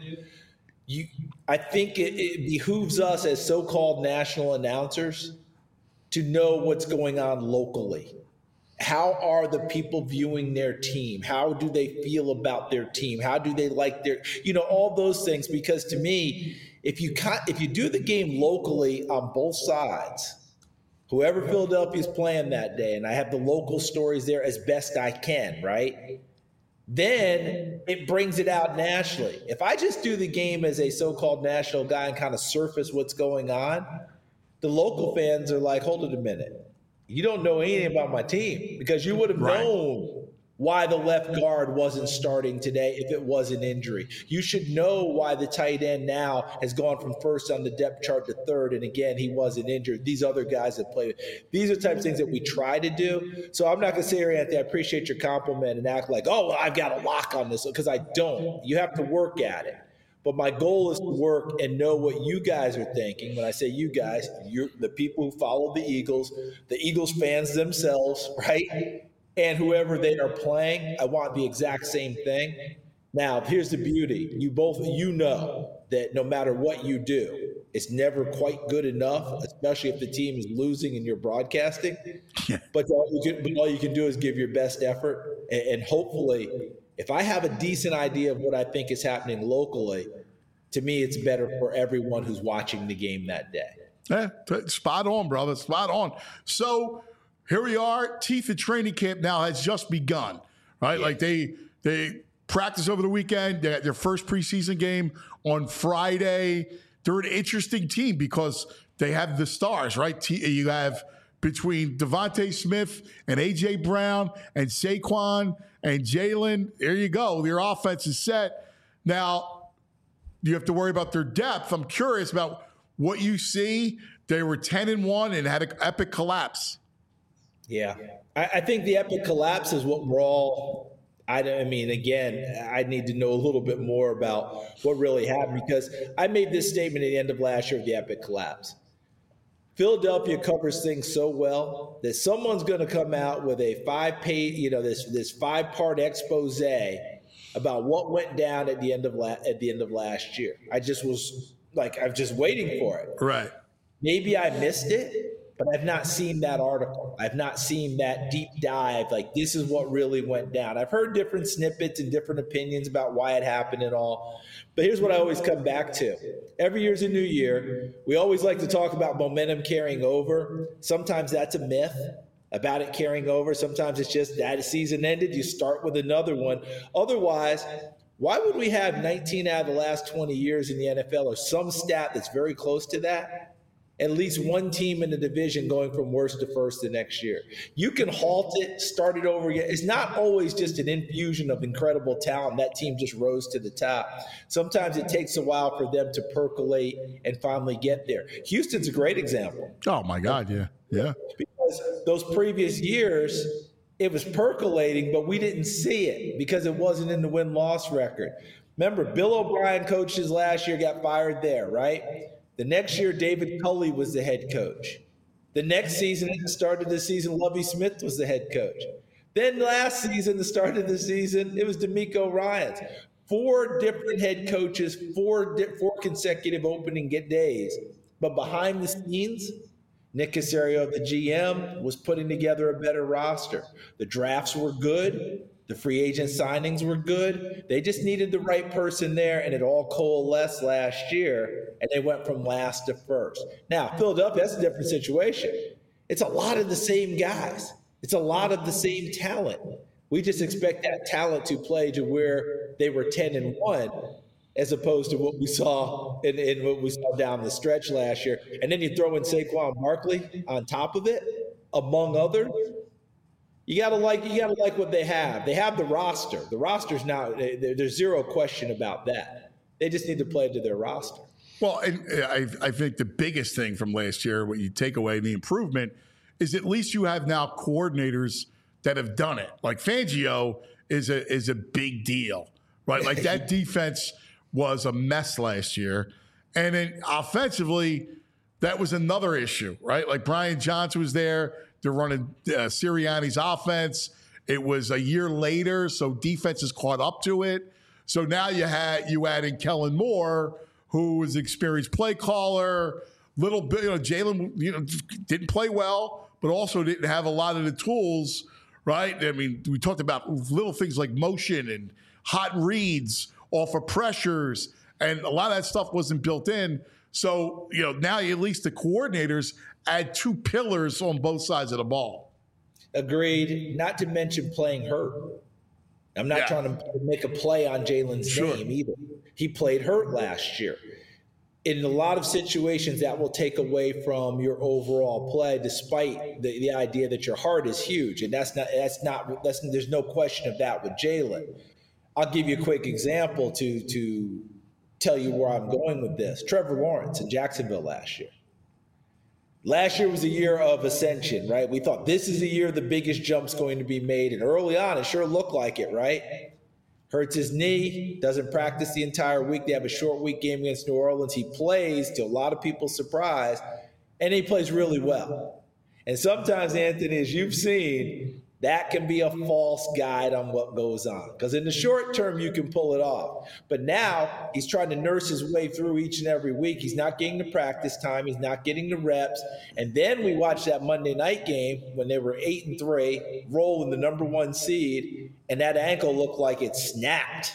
I think it behooves us as so-called national announcers to know what's going on locally. How are the people viewing their team? How do they feel about their team? How do they like their, all those things? Because to me, if you do the game locally on both sides, whoever Philadelphia's playing that day, and I have the local stories there as best I can, right? Then it brings it out nationally. If I just do the game as a so-called national guy and kind of surface what's going on, the local fans are like, hold it a minute. You don't know anything about my team, because you would have known why the left guard wasn't starting today if it was an injury. You should know why the tight end now has gone from first on the depth chart to third, and again, he wasn't injured. These other guys that played. These are the types of things that we try to do. So I'm not going to say here, Anthony, I appreciate your compliment and act like, oh, well, I've got a lock on this, because I don't. You have to work at it. But my goal is to work and know what you guys are thinking. When I say you guys, you're the people who follow the Eagles fans themselves, right? And whoever they are playing, I want the exact same thing. Now, here's the beauty. You know that no matter what you do, it's never quite good enough, especially if the team is losing and you're broadcasting. But all you can do is give your best effort, and hopefully – if I have a decent idea of what I think is happening locally, to me, it's better for everyone who's watching the game that day. Yeah, spot on, brother. Spot on. So here we are. Teeth of training camp now has just begun, right? Yeah. Like they practice over the weekend. They got their first preseason game on Friday. They're an interesting team because they have the stars, right? You have between Devontae Smith and A.J. Brown and Saquon and Jalen, there you go. Your offense is set. Now, you have to worry about their depth. I'm curious about what you see. They were 10-1 and had an epic collapse. Yeah. I think the epic collapse is what we're all – I mean, again, I need to know a little bit more about what really happened, because I made this statement at the end of last year of the epic collapse. Philadelphia covers things so well that someone's going to come out with a 5-page, this 5-part expose about what went down at the end of last year. I just was like, I'm just waiting for it. Right. Maybe I missed it. But I've not seen that article. I've not seen that deep dive, like this is what really went down. I've heard different snippets and different opinions about why it happened and all. But here's what I always come back to. Every year's a new year. We always like to talk about momentum carrying over. Sometimes that's a myth about it carrying over. Sometimes it's just that season ended, you start with another one. Otherwise, why would we have 19 out of the last 20 years in the NFL or some stat that's very close to that? At least one team in the division going from worst to first the next year. You can halt it, start it over again. It's not always just an infusion of incredible talent. That team just rose to the top. Sometimes it takes a while for them to percolate and finally get there. Houston's a great example. Oh, my God, yeah. Because those previous years, it was percolating, but we didn't see it because it wasn't in the win-loss record. Remember, Bill O'Brien coached his last year, got fired there, right? The next year, David Culley was the head coach. The next season, at the start of the season, Lovie Smith was the head coach. Then last season, the start of the season, it was DeMeco Ryans. 4 different head coaches, 4 consecutive opening days. But behind the scenes, Nick Caserio, the GM, was putting together a better roster. The drafts were good. The free agent signings were good. They just needed the right person there, and it all coalesced last year, and they went from last to first. Now, Philadelphia, that's a different situation. It's a lot of the same guys. It's a lot of the same talent. We just expect that talent to play to where they were 10-1, as opposed to what we saw in what we saw down the stretch last year. And then you throw in Saquon Barkley on top of it, among others. You gotta like what they have. They have the roster. The roster's now, there's zero question about that. They just need to play to their roster. Well, and I think the biggest thing from last year, what you take away, the improvement, is at least you have now coordinators that have done it. Like Fangio is a big deal, right? Like that defense was a mess last year. And then offensively, that was another issue, right? Like Brian Johnson was there. They're running Sirianni's offense. It was a year later, so defense has caught up to it. So now you add in Kellen Moore, who is an experienced play caller. Little bit, Jalen, didn't play well, but also didn't have a lot of the tools, right? I mean, we talked about little things like motion and hot reads off of pressures, and a lot of that stuff wasn't built in. So, now at least the coordinators add 2 pillars on both sides of the ball. Agreed. Not to mention playing hurt. I'm not trying to make a play on Jalen's name either. He played hurt last year. In a lot of situations, that will take away from your overall play, despite the idea that your heart is huge. And there's no question of that with Jalen. I'll give you a quick example to tell you where I'm going with this. Trevor Lawrence in Jacksonville last year. Last year was a year of ascension, right? We thought this is the year the biggest jump's going to be made. And early on, it sure looked like it, right? Hurts his knee, doesn't practice the entire week. They have a short week game against New Orleans. He plays, to a lot of people's surprise, and he plays really well. And sometimes, Anthony, as you've seen, that can be a false guide on what goes on. Because in the short term, you can pull it off. But now he's trying to nurse his way through each and every week. He's not getting the practice time. He's not getting the reps. And then we watched that Monday night game when they were 8-3, rolling the number 1 seed, and that ankle looked like it snapped.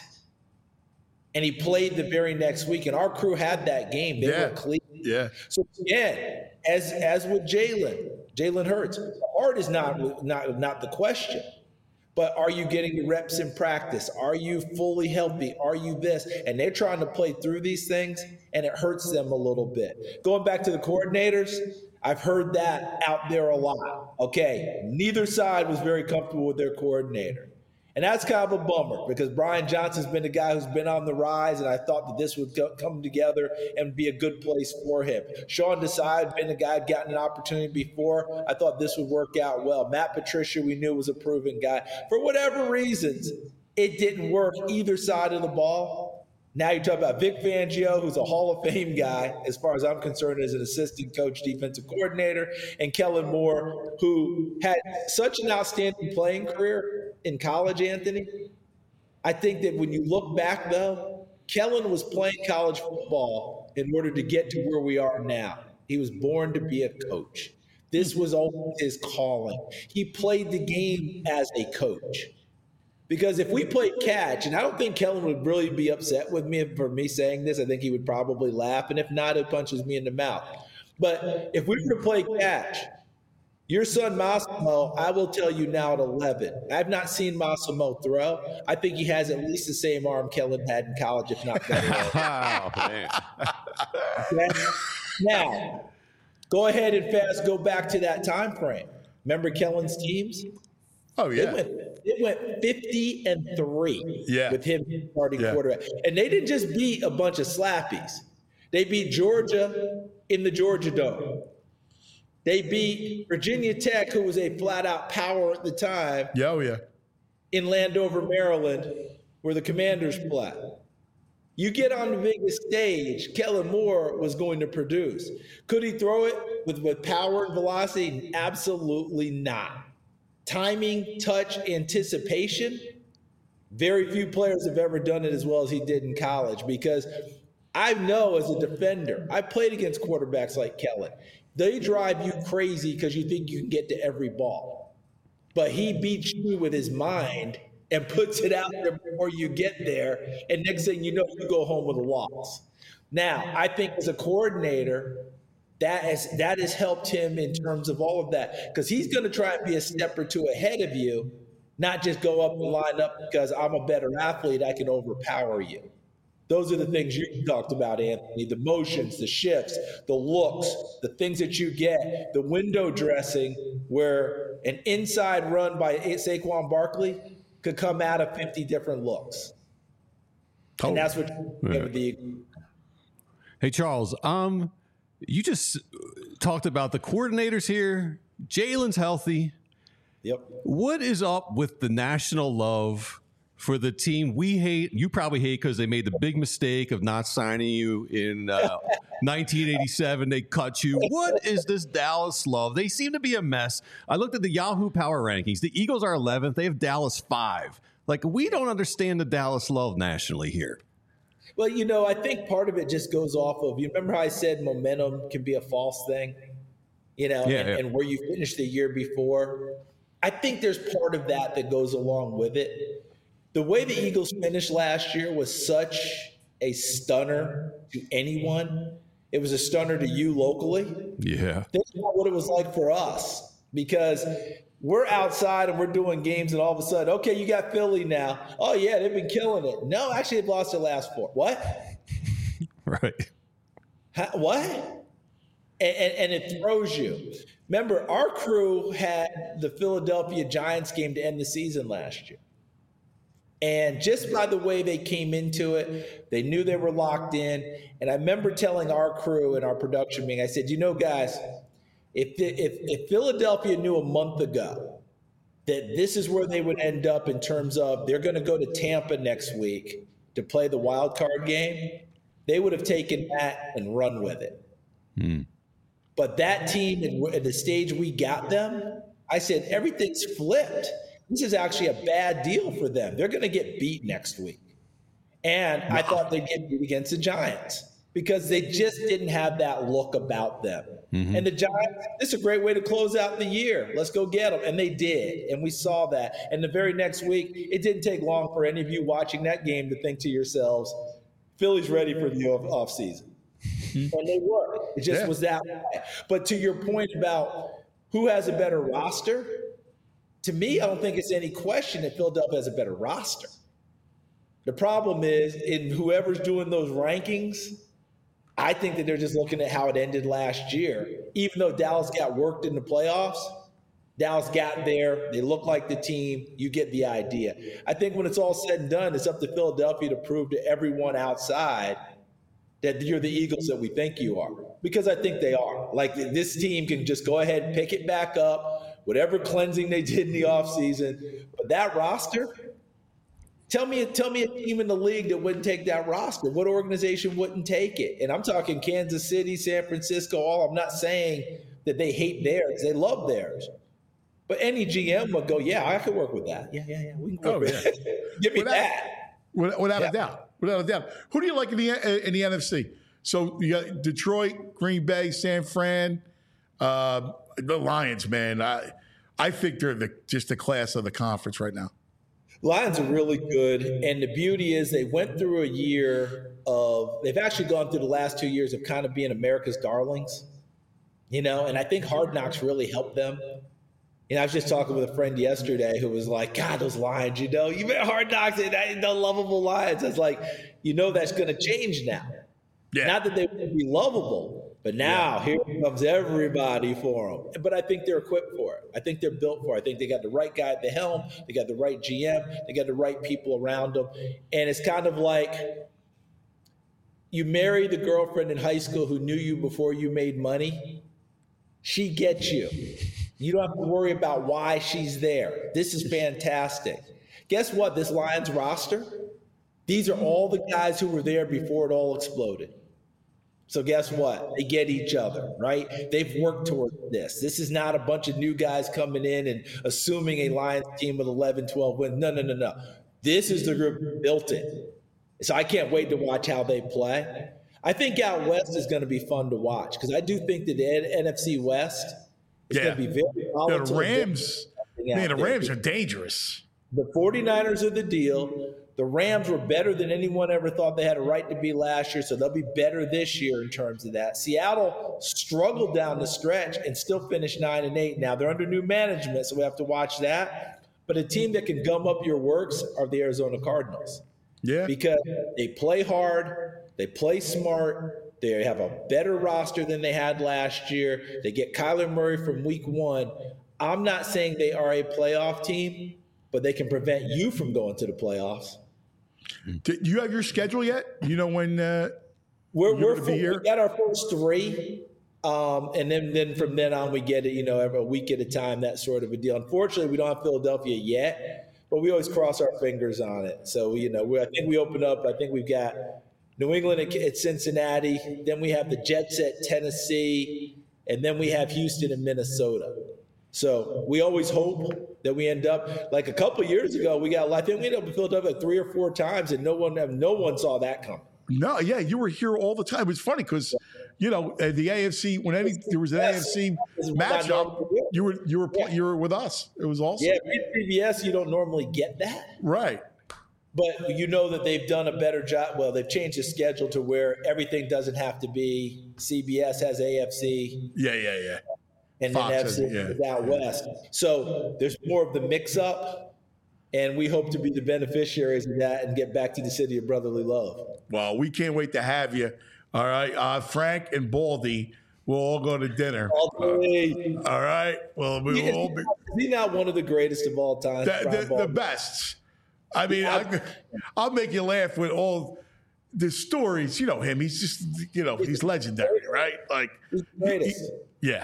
And he played the very next week. And our crew had that game. They were clean. Yeah. So again, as with Jalen Hurts, the heart is not the question, but are you getting the reps in practice? Are you fully healthy? Are you this? And they're trying to play through these things, and it hurts them a little bit. Going back to the coordinators, I've heard that out there a lot. Okay, neither side was very comfortable with their coordinator. And that's kind of a bummer because Brian Johnson's been the guy who's been on the rise, and I thought that this would come together and be a good place for him. Sean Desai had been the guy who'd gotten an opportunity before. I thought this would work out well. Matt Patricia, we knew was a proven guy. For whatever reasons, it didn't work either side of the ball. Now you talk about Vic Fangio, who's a Hall of Fame guy, as far as I'm concerned, as an assistant coach, defensive coordinator, and Kellen Moore, who had such an outstanding playing career in college, Anthony. I think that when you look back, though, Kellen was playing college football in order to get to where we are now. He was born to be a coach. This was always his calling. He played the game as a coach. Because if we played catch, and I don't think Kellen would really be upset with me for me saying this. I think he would probably laugh. And if not, it punches me in the mouth. But if we were to play catch, your son Massimo, I will tell you now at 11. I've not seen Massimo throw. I think he has at least the same arm Kellen had in college, if not better. Oh, man. Okay? Now, go ahead and fast go back to that time frame. Remember Kellen's teams? Oh, yeah. It went 50-3 with him starting quarterback. And they didn't just beat a bunch of slappies. They beat Georgia in the Georgia Dome. They beat Virginia Tech, who was a flat-out power at the time. In Landover, Maryland, where the Commanders play. You get on the biggest stage, Kellen Moore was going to produce. Could he throw it with power and velocity? Absolutely not. Timing, touch, anticipation, very few players have ever done it as well as he did in college, because I know as a defender, I played against quarterbacks like Kellen. They drive you crazy because you think you can get to every ball. But he beats you with his mind and puts it out there before you get there. And next thing you know, you go home with a loss. Now, I think as a coordinator, that has helped him in terms of all of that, because he's going to try and be a step or two ahead of you, not just go up and line up because I'm a better athlete, I can overpower you. Those are the things you talked about, Anthony, the motions, the shifts, the looks, the things that you get, the window dressing where an inside run by Saquon Barkley could come out of 50 different looks. And that's what Hey, Charles, you just talked about the coordinators here. Jalen's healthy. Yep. What is up with the national love for the team we hate? You probably hate because they made the big mistake of not signing you in 1987. They cut you. What is this Dallas love? They seem to be a mess. I looked at the Yahoo Power Rankings. The Eagles are 11th. They have Dallas 5. Like, we don't understand the Dallas love nationally here. Well, you know, I think part of it just goes off of, you remember how I said momentum can be a false thing, you know, and where you finished the year before. I think there's part of that goes along with it. The way the Eagles finished last year was such a stunner to anyone. It was a stunner to you locally. Yeah. Think about what it was like for us, because we're outside and we're doing games, and all of a sudden, okay, you got Philly now. Oh, yeah, they've been killing it. No, actually, they've lost their last 4. What? Right. What? And it throws you. Remember, our crew had the Philadelphia Giants game to end the season last year. And just by the way they came into it, they knew they were locked in. And I remember telling our crew in our production meeting, I said, you know, guys, if Philadelphia knew a month ago that this is where they would end up in terms of they're going to go to Tampa next week to play the wild card game, they would have taken that and run with it. But that team, at the stage we got them, I said, everything's flipped. This is actually a bad deal for them. They're going to get beat next week. And I thought they'd get beat against the Giants because they just didn't have that look about them. And the Giants, this is a great way to close out the year. Let's go get them. And they did. And we saw that. And the very next week, it didn't take long for any of you watching that game to think to yourselves, Philly's ready for the offseason. And they were. It just was that way. But to your point about who has a better roster, to me, I don't think it's any question that Philadelphia has a better roster. The problem is in whoever's doing those rankings, I think that they're just looking at how it ended last year. Even though Dallas got worked in the playoffs, Dallas got there. They look like the team. You get the idea. I think when it's all said and done, it's up to Philadelphia to prove to everyone outside that you're the Eagles that we think you are. Because I think they are. Like, this team can just go ahead and pick it back up, whatever cleansing they did in the offseason. But that roster, tell me a team in the league that wouldn't take that roster. What organization wouldn't take it? And I'm talking Kansas City, San Francisco, all. I'm not saying that they hate theirs. They love theirs. But any GM would go, yeah, I could work with that. Yeah. We can work with that. Give me that. Without a doubt. Without a doubt. Who do you like in the NFC? So you got Detroit, Green Bay, San Fran. the Lions, man, I think they're just the class of the conference right now. Lions are really good, and the beauty is they went through a year they've actually gone through the last 2 years of kind of being America's darlings, and I think Hard Knocks really helped them. I was just talking with a friend yesterday who was like, God, those Lions, you met Hard Knocks, and the lovable Lions. I was like, that's going to change now. Yeah. Not that they won't be lovable, but now here comes everybody for them. But I think they're equipped for it. I think they're built for it. I think they got the right guy at the helm. They got the right GM. They got the right people around them. And it's kind of like you marry the girlfriend in high school who knew you before you made money. She gets you. You don't have to worry about why she's there. This is fantastic. Guess what? This Lions roster, these are all the guys who were there before it all exploded. So guess what? They get each other, right? They've worked toward this. This is not a bunch of new guys coming in and assuming a Lions team with 11, 12 wins. No. This is the group who built it. So I can't wait to watch how they play. I think out west is going to be fun to watch because I do think that the NFC West is going to be very volatile. The Rams are dangerous. The 49ers are the deal. The Rams were better than anyone ever thought they had a right to be last year, so they'll be better this year in terms of that. Seattle struggled down the stretch and still finished 9-8. Now they're under new management, so we have to watch that. But a team that can gum up your works are the Arizona Cardinals. Yeah. Because they play hard, they play smart, they have a better roster than they had last year. They get Kyler Murray from week 1. I'm not saying they are a playoff team, but they can prevent you from going to the playoffs. Do you have your schedule yet? You know when we got our first 3, and then from then on we get it, every week at a time, that sort of a deal. Unfortunately, we don't have Philadelphia yet, but we always cross our fingers on it. So I think we open up. I think we've got New England at Cincinnati, then we have the Jets at Tennessee, and then we have Houston and Minnesota. So we always hope that we end up like a couple of years ago. I think we ended up in Philadelphia 3 or 4 times, and no one saw that coming. No, yeah, you were here all the time. It's funny because the AFC there was an AFC matchup. You were with us. It was awesome. Yeah, CBS, you don't normally get that, right? But that they've done a better job. Well, they've changed the schedule to where everything doesn't have to be CBS has AFC. Yeah. And Fox then FC out west. So there's more of the mix-up, and we hope to be the beneficiaries of that and get back to the city of brotherly love. Well, we can't wait to have you. All right, Frank and Baldy will all go to dinner. All right. Well, we will all be. Is he not one of the greatest of all time? The best. I mean, I'll make you laugh with all the stories. You know him. He's just, he's legendary, right? Like, he's the greatest. Yeah.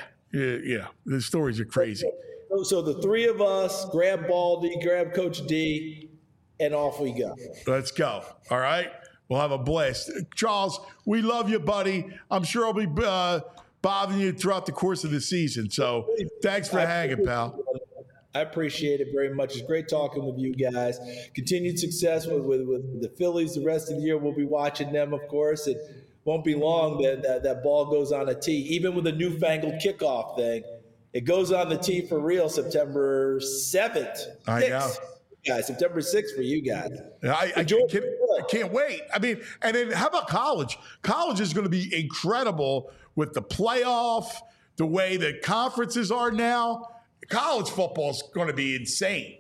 The stories are crazy. So the 3 of us grab Baldy, grab Coach D, and off we go. Let's go. All right. We'll have a blast. Charles, we love you, buddy. I'm sure I'll be bothering you throughout the course of the season. So thanks for hanging, pal. I appreciate it very much. It's great talking with you guys. Continued success with the Phillies the rest of the year. We'll be watching them, of course. It won't be long that ball goes on a tee. Even with the newfangled kickoff thing, it goes on the tee for real September 7th. I know. Guys, September 6th for you guys. I can't wait. I mean, and then how about college? College is going to be incredible with the playoff, the way the conferences are now. College football is going to be insane.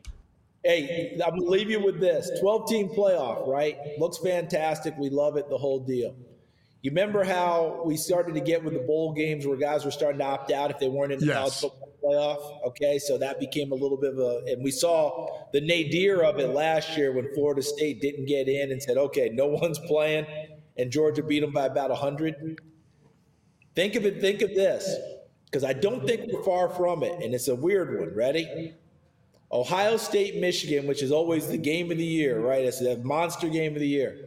Hey, I'm going to leave you with this. 12-team playoff, right? Looks fantastic. We love it, the whole deal. You remember how we started to get with the bowl games where guys were starting to opt out if they weren't in the college football playoff? Okay, so that became a little bit of and we saw the nadir of it last year when Florida State didn't get in and said, okay, no one's playing, and Georgia beat them by about 100. Think of this, because I don't think we're far from it, and it's a weird one. Ready? Ohio State, Michigan, which is always the game of the year, right? It's the monster game of the year.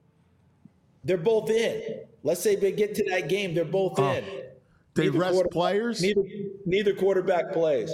They're both in. Let's say they get to that game, they're both in. They rest players? Neither quarterback plays.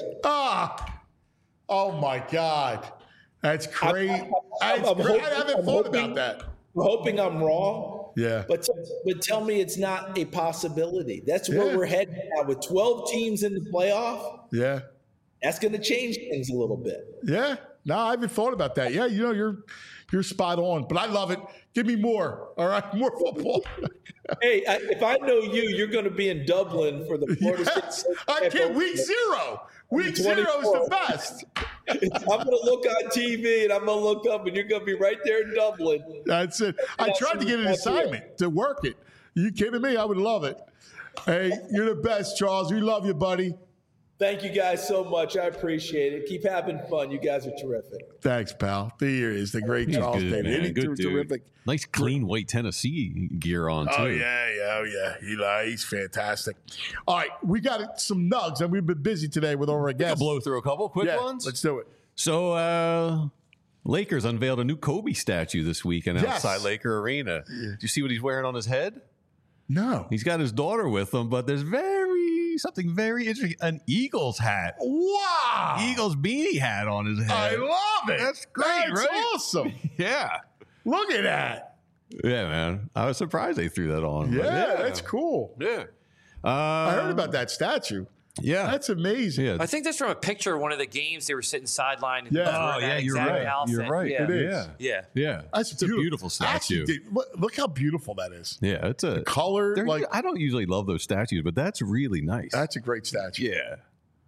Oh, my God. That's crazy. I haven't thought about that. I'm hoping I'm wrong, Yeah. But tell me it's not a possibility. That's where we're heading now with 12 teams in the playoff. Yeah. That's going to change things a little bit. Yeah. No, I haven't thought about that. Yeah, you're spot on. But I love it. Give me more. All right, more football. Hey, if I know you, you're going to be in Dublin for the Florida State. I can't. Week 0. Week 0 is the best. I'm going to look on TV and I'm going to look up and you're going to be right there in Dublin. That's it. I tried to get an assignment to work it. You kidding me? I would love it. Hey, you're the best, Charles. We love you, buddy. Thank you guys so much. I appreciate it. Keep having fun. You guys are terrific. Thanks, pal. Here is the great Charles Daly. Good dude. Terrific. Nice, clean white Tennessee gear on, too. Oh, yeah. He's fantastic. All right, we got some nugs, and we've been busy today with our guests. I'll blow through a couple quick ones. Let's do it. So, Lakers unveiled a new Kobe statue this weekend outside Laker Arena. Yeah. Do you see what he's wearing on his head? No. He's got his daughter with him, but there's something very interesting. An Eagles hat. Wow. Eagles beanie hat on his head. I love it. That's great, That's right? awesome. Yeah. Look at that. Yeah, man. I was surprised they threw that on. Yeah, that's cool. Yeah. I heard about that statue. Yeah. That's amazing. Yeah. I think that's from a picture of one of the games. They were sitting sideline. Yeah. Oh, yeah, you're right. You're right. Yeah. It is. Yeah. Yeah. That's It's a beautiful statue. Actually, look how beautiful that is. Yeah, it's a Color, like I don't usually love those statues, but that's really nice. that's a great statue. Yeah.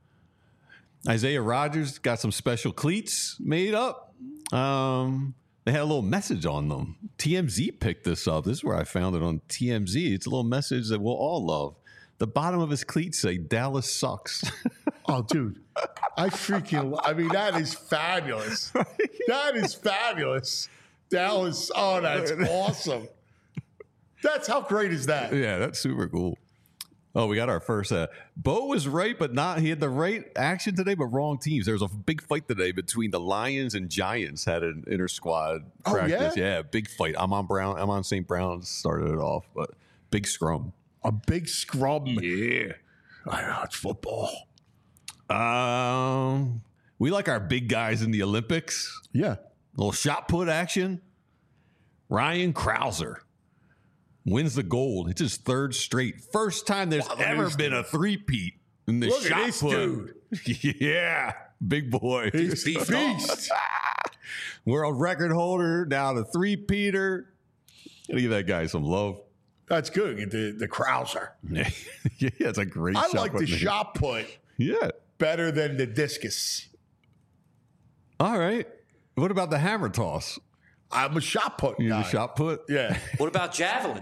Isaiah Rodgers got some special cleats made up. They had a little message on them. TMZ picked this up. This is where I found it on TMZ. It's a little message that we'll all love. The bottom of his cleats say Dallas sucks. Oh, dude. I mean, that is fabulous. That is fabulous. Dallas. Oh, that's awesome. That's how great is that? Yeah, that's super cool. Oh, we got our first. Bo was right, but not. He had the right action today, but wrong teams. There was a big fight today between the Lions and Giants. Had an inter squad practice. Yeah, big fight. I'm on St. Brown's. Started it off, but big scrum. A big scrum. Yeah, I know it's football. We like our big guys in the Olympics. Yeah. Little shot put action. Ryan Krauser wins the gold. It's his third straight. First time there's ever been a three-peat in the Look shot at this put. dude. Yeah, big boy. He's a beast. World record holder, now the three-peater. Gotta give that guy some love. That's good. The Krauser. Yeah, it's a great I shot like put the name. shot put Yeah. better than the discus. All right. What about the hammer toss? I'm a shot put You guy. the shot put? Yeah. What about javelin?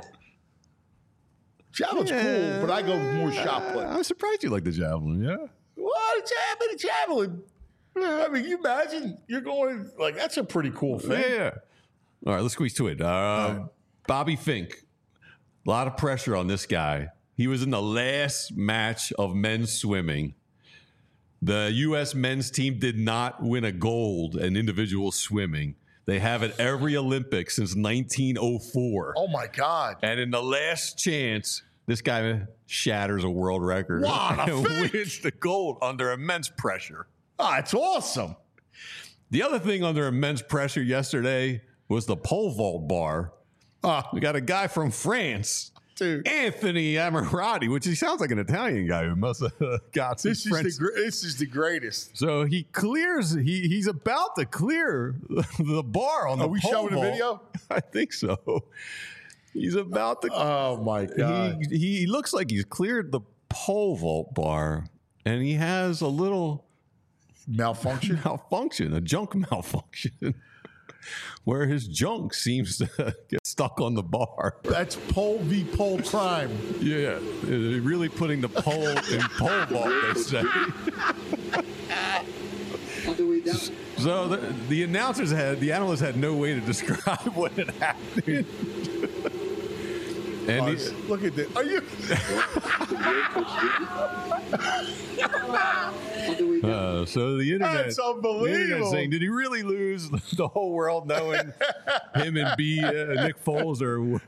Javelin's cool, but I go more shot put. I'm surprised you like the javelin, yeah? What? A javelin? I mean, you imagine you're going, like, that's a pretty cool thing. Yeah. All right, let's squeeze to it. Bobby Fink. A lot of pressure on this guy. He was in the last match of men's swimming. The U.S. men's team did not win a gold in individual swimming. They have it every Olympics since 1904. Oh, my God. And in the last chance, this guy shatters a world record What a and fake. wins the gold under immense pressure. Oh, it's awesome. The other thing under immense pressure yesterday was the pole vault bar. We got a guy from France, Dude. Anthony Ammirati, which he sounds like an Italian guy who must have got some French. This is the greatest. So he clears. He's about to clear the bar on the Are we pole showing the vault. video? I think so. He's about to. Oh, my God. He looks like he's cleared the pole vault bar, and he has a little Malfunction? a junk malfunction, where his junk seems to get stuck on the bar. That's pole v pole crime. Yeah, they're really putting the pole in pole vault, they say. So the analysts had no way to describe what had happened. And Look at this. Are you? so the internet, That's unbelievable. The internet saying, did he really lose? The whole world knowing him and Nick Foles are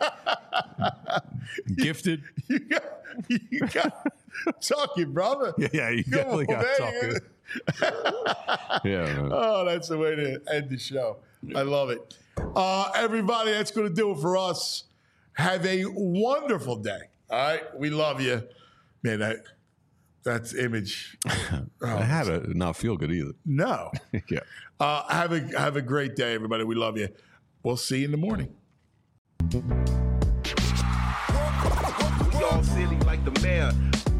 gifted. You got talking, brother. Yeah, you definitely got talking. Yeah. Man. Oh, that's the way to end the show. I love it. Everybody, that's going to do it for us. Have a wonderful day. All right? We love you. Man, that's image. I had to not feel good either. No. Yeah. Have a great day, everybody. We love you. We'll see you in the morning. We all silly like the mayor.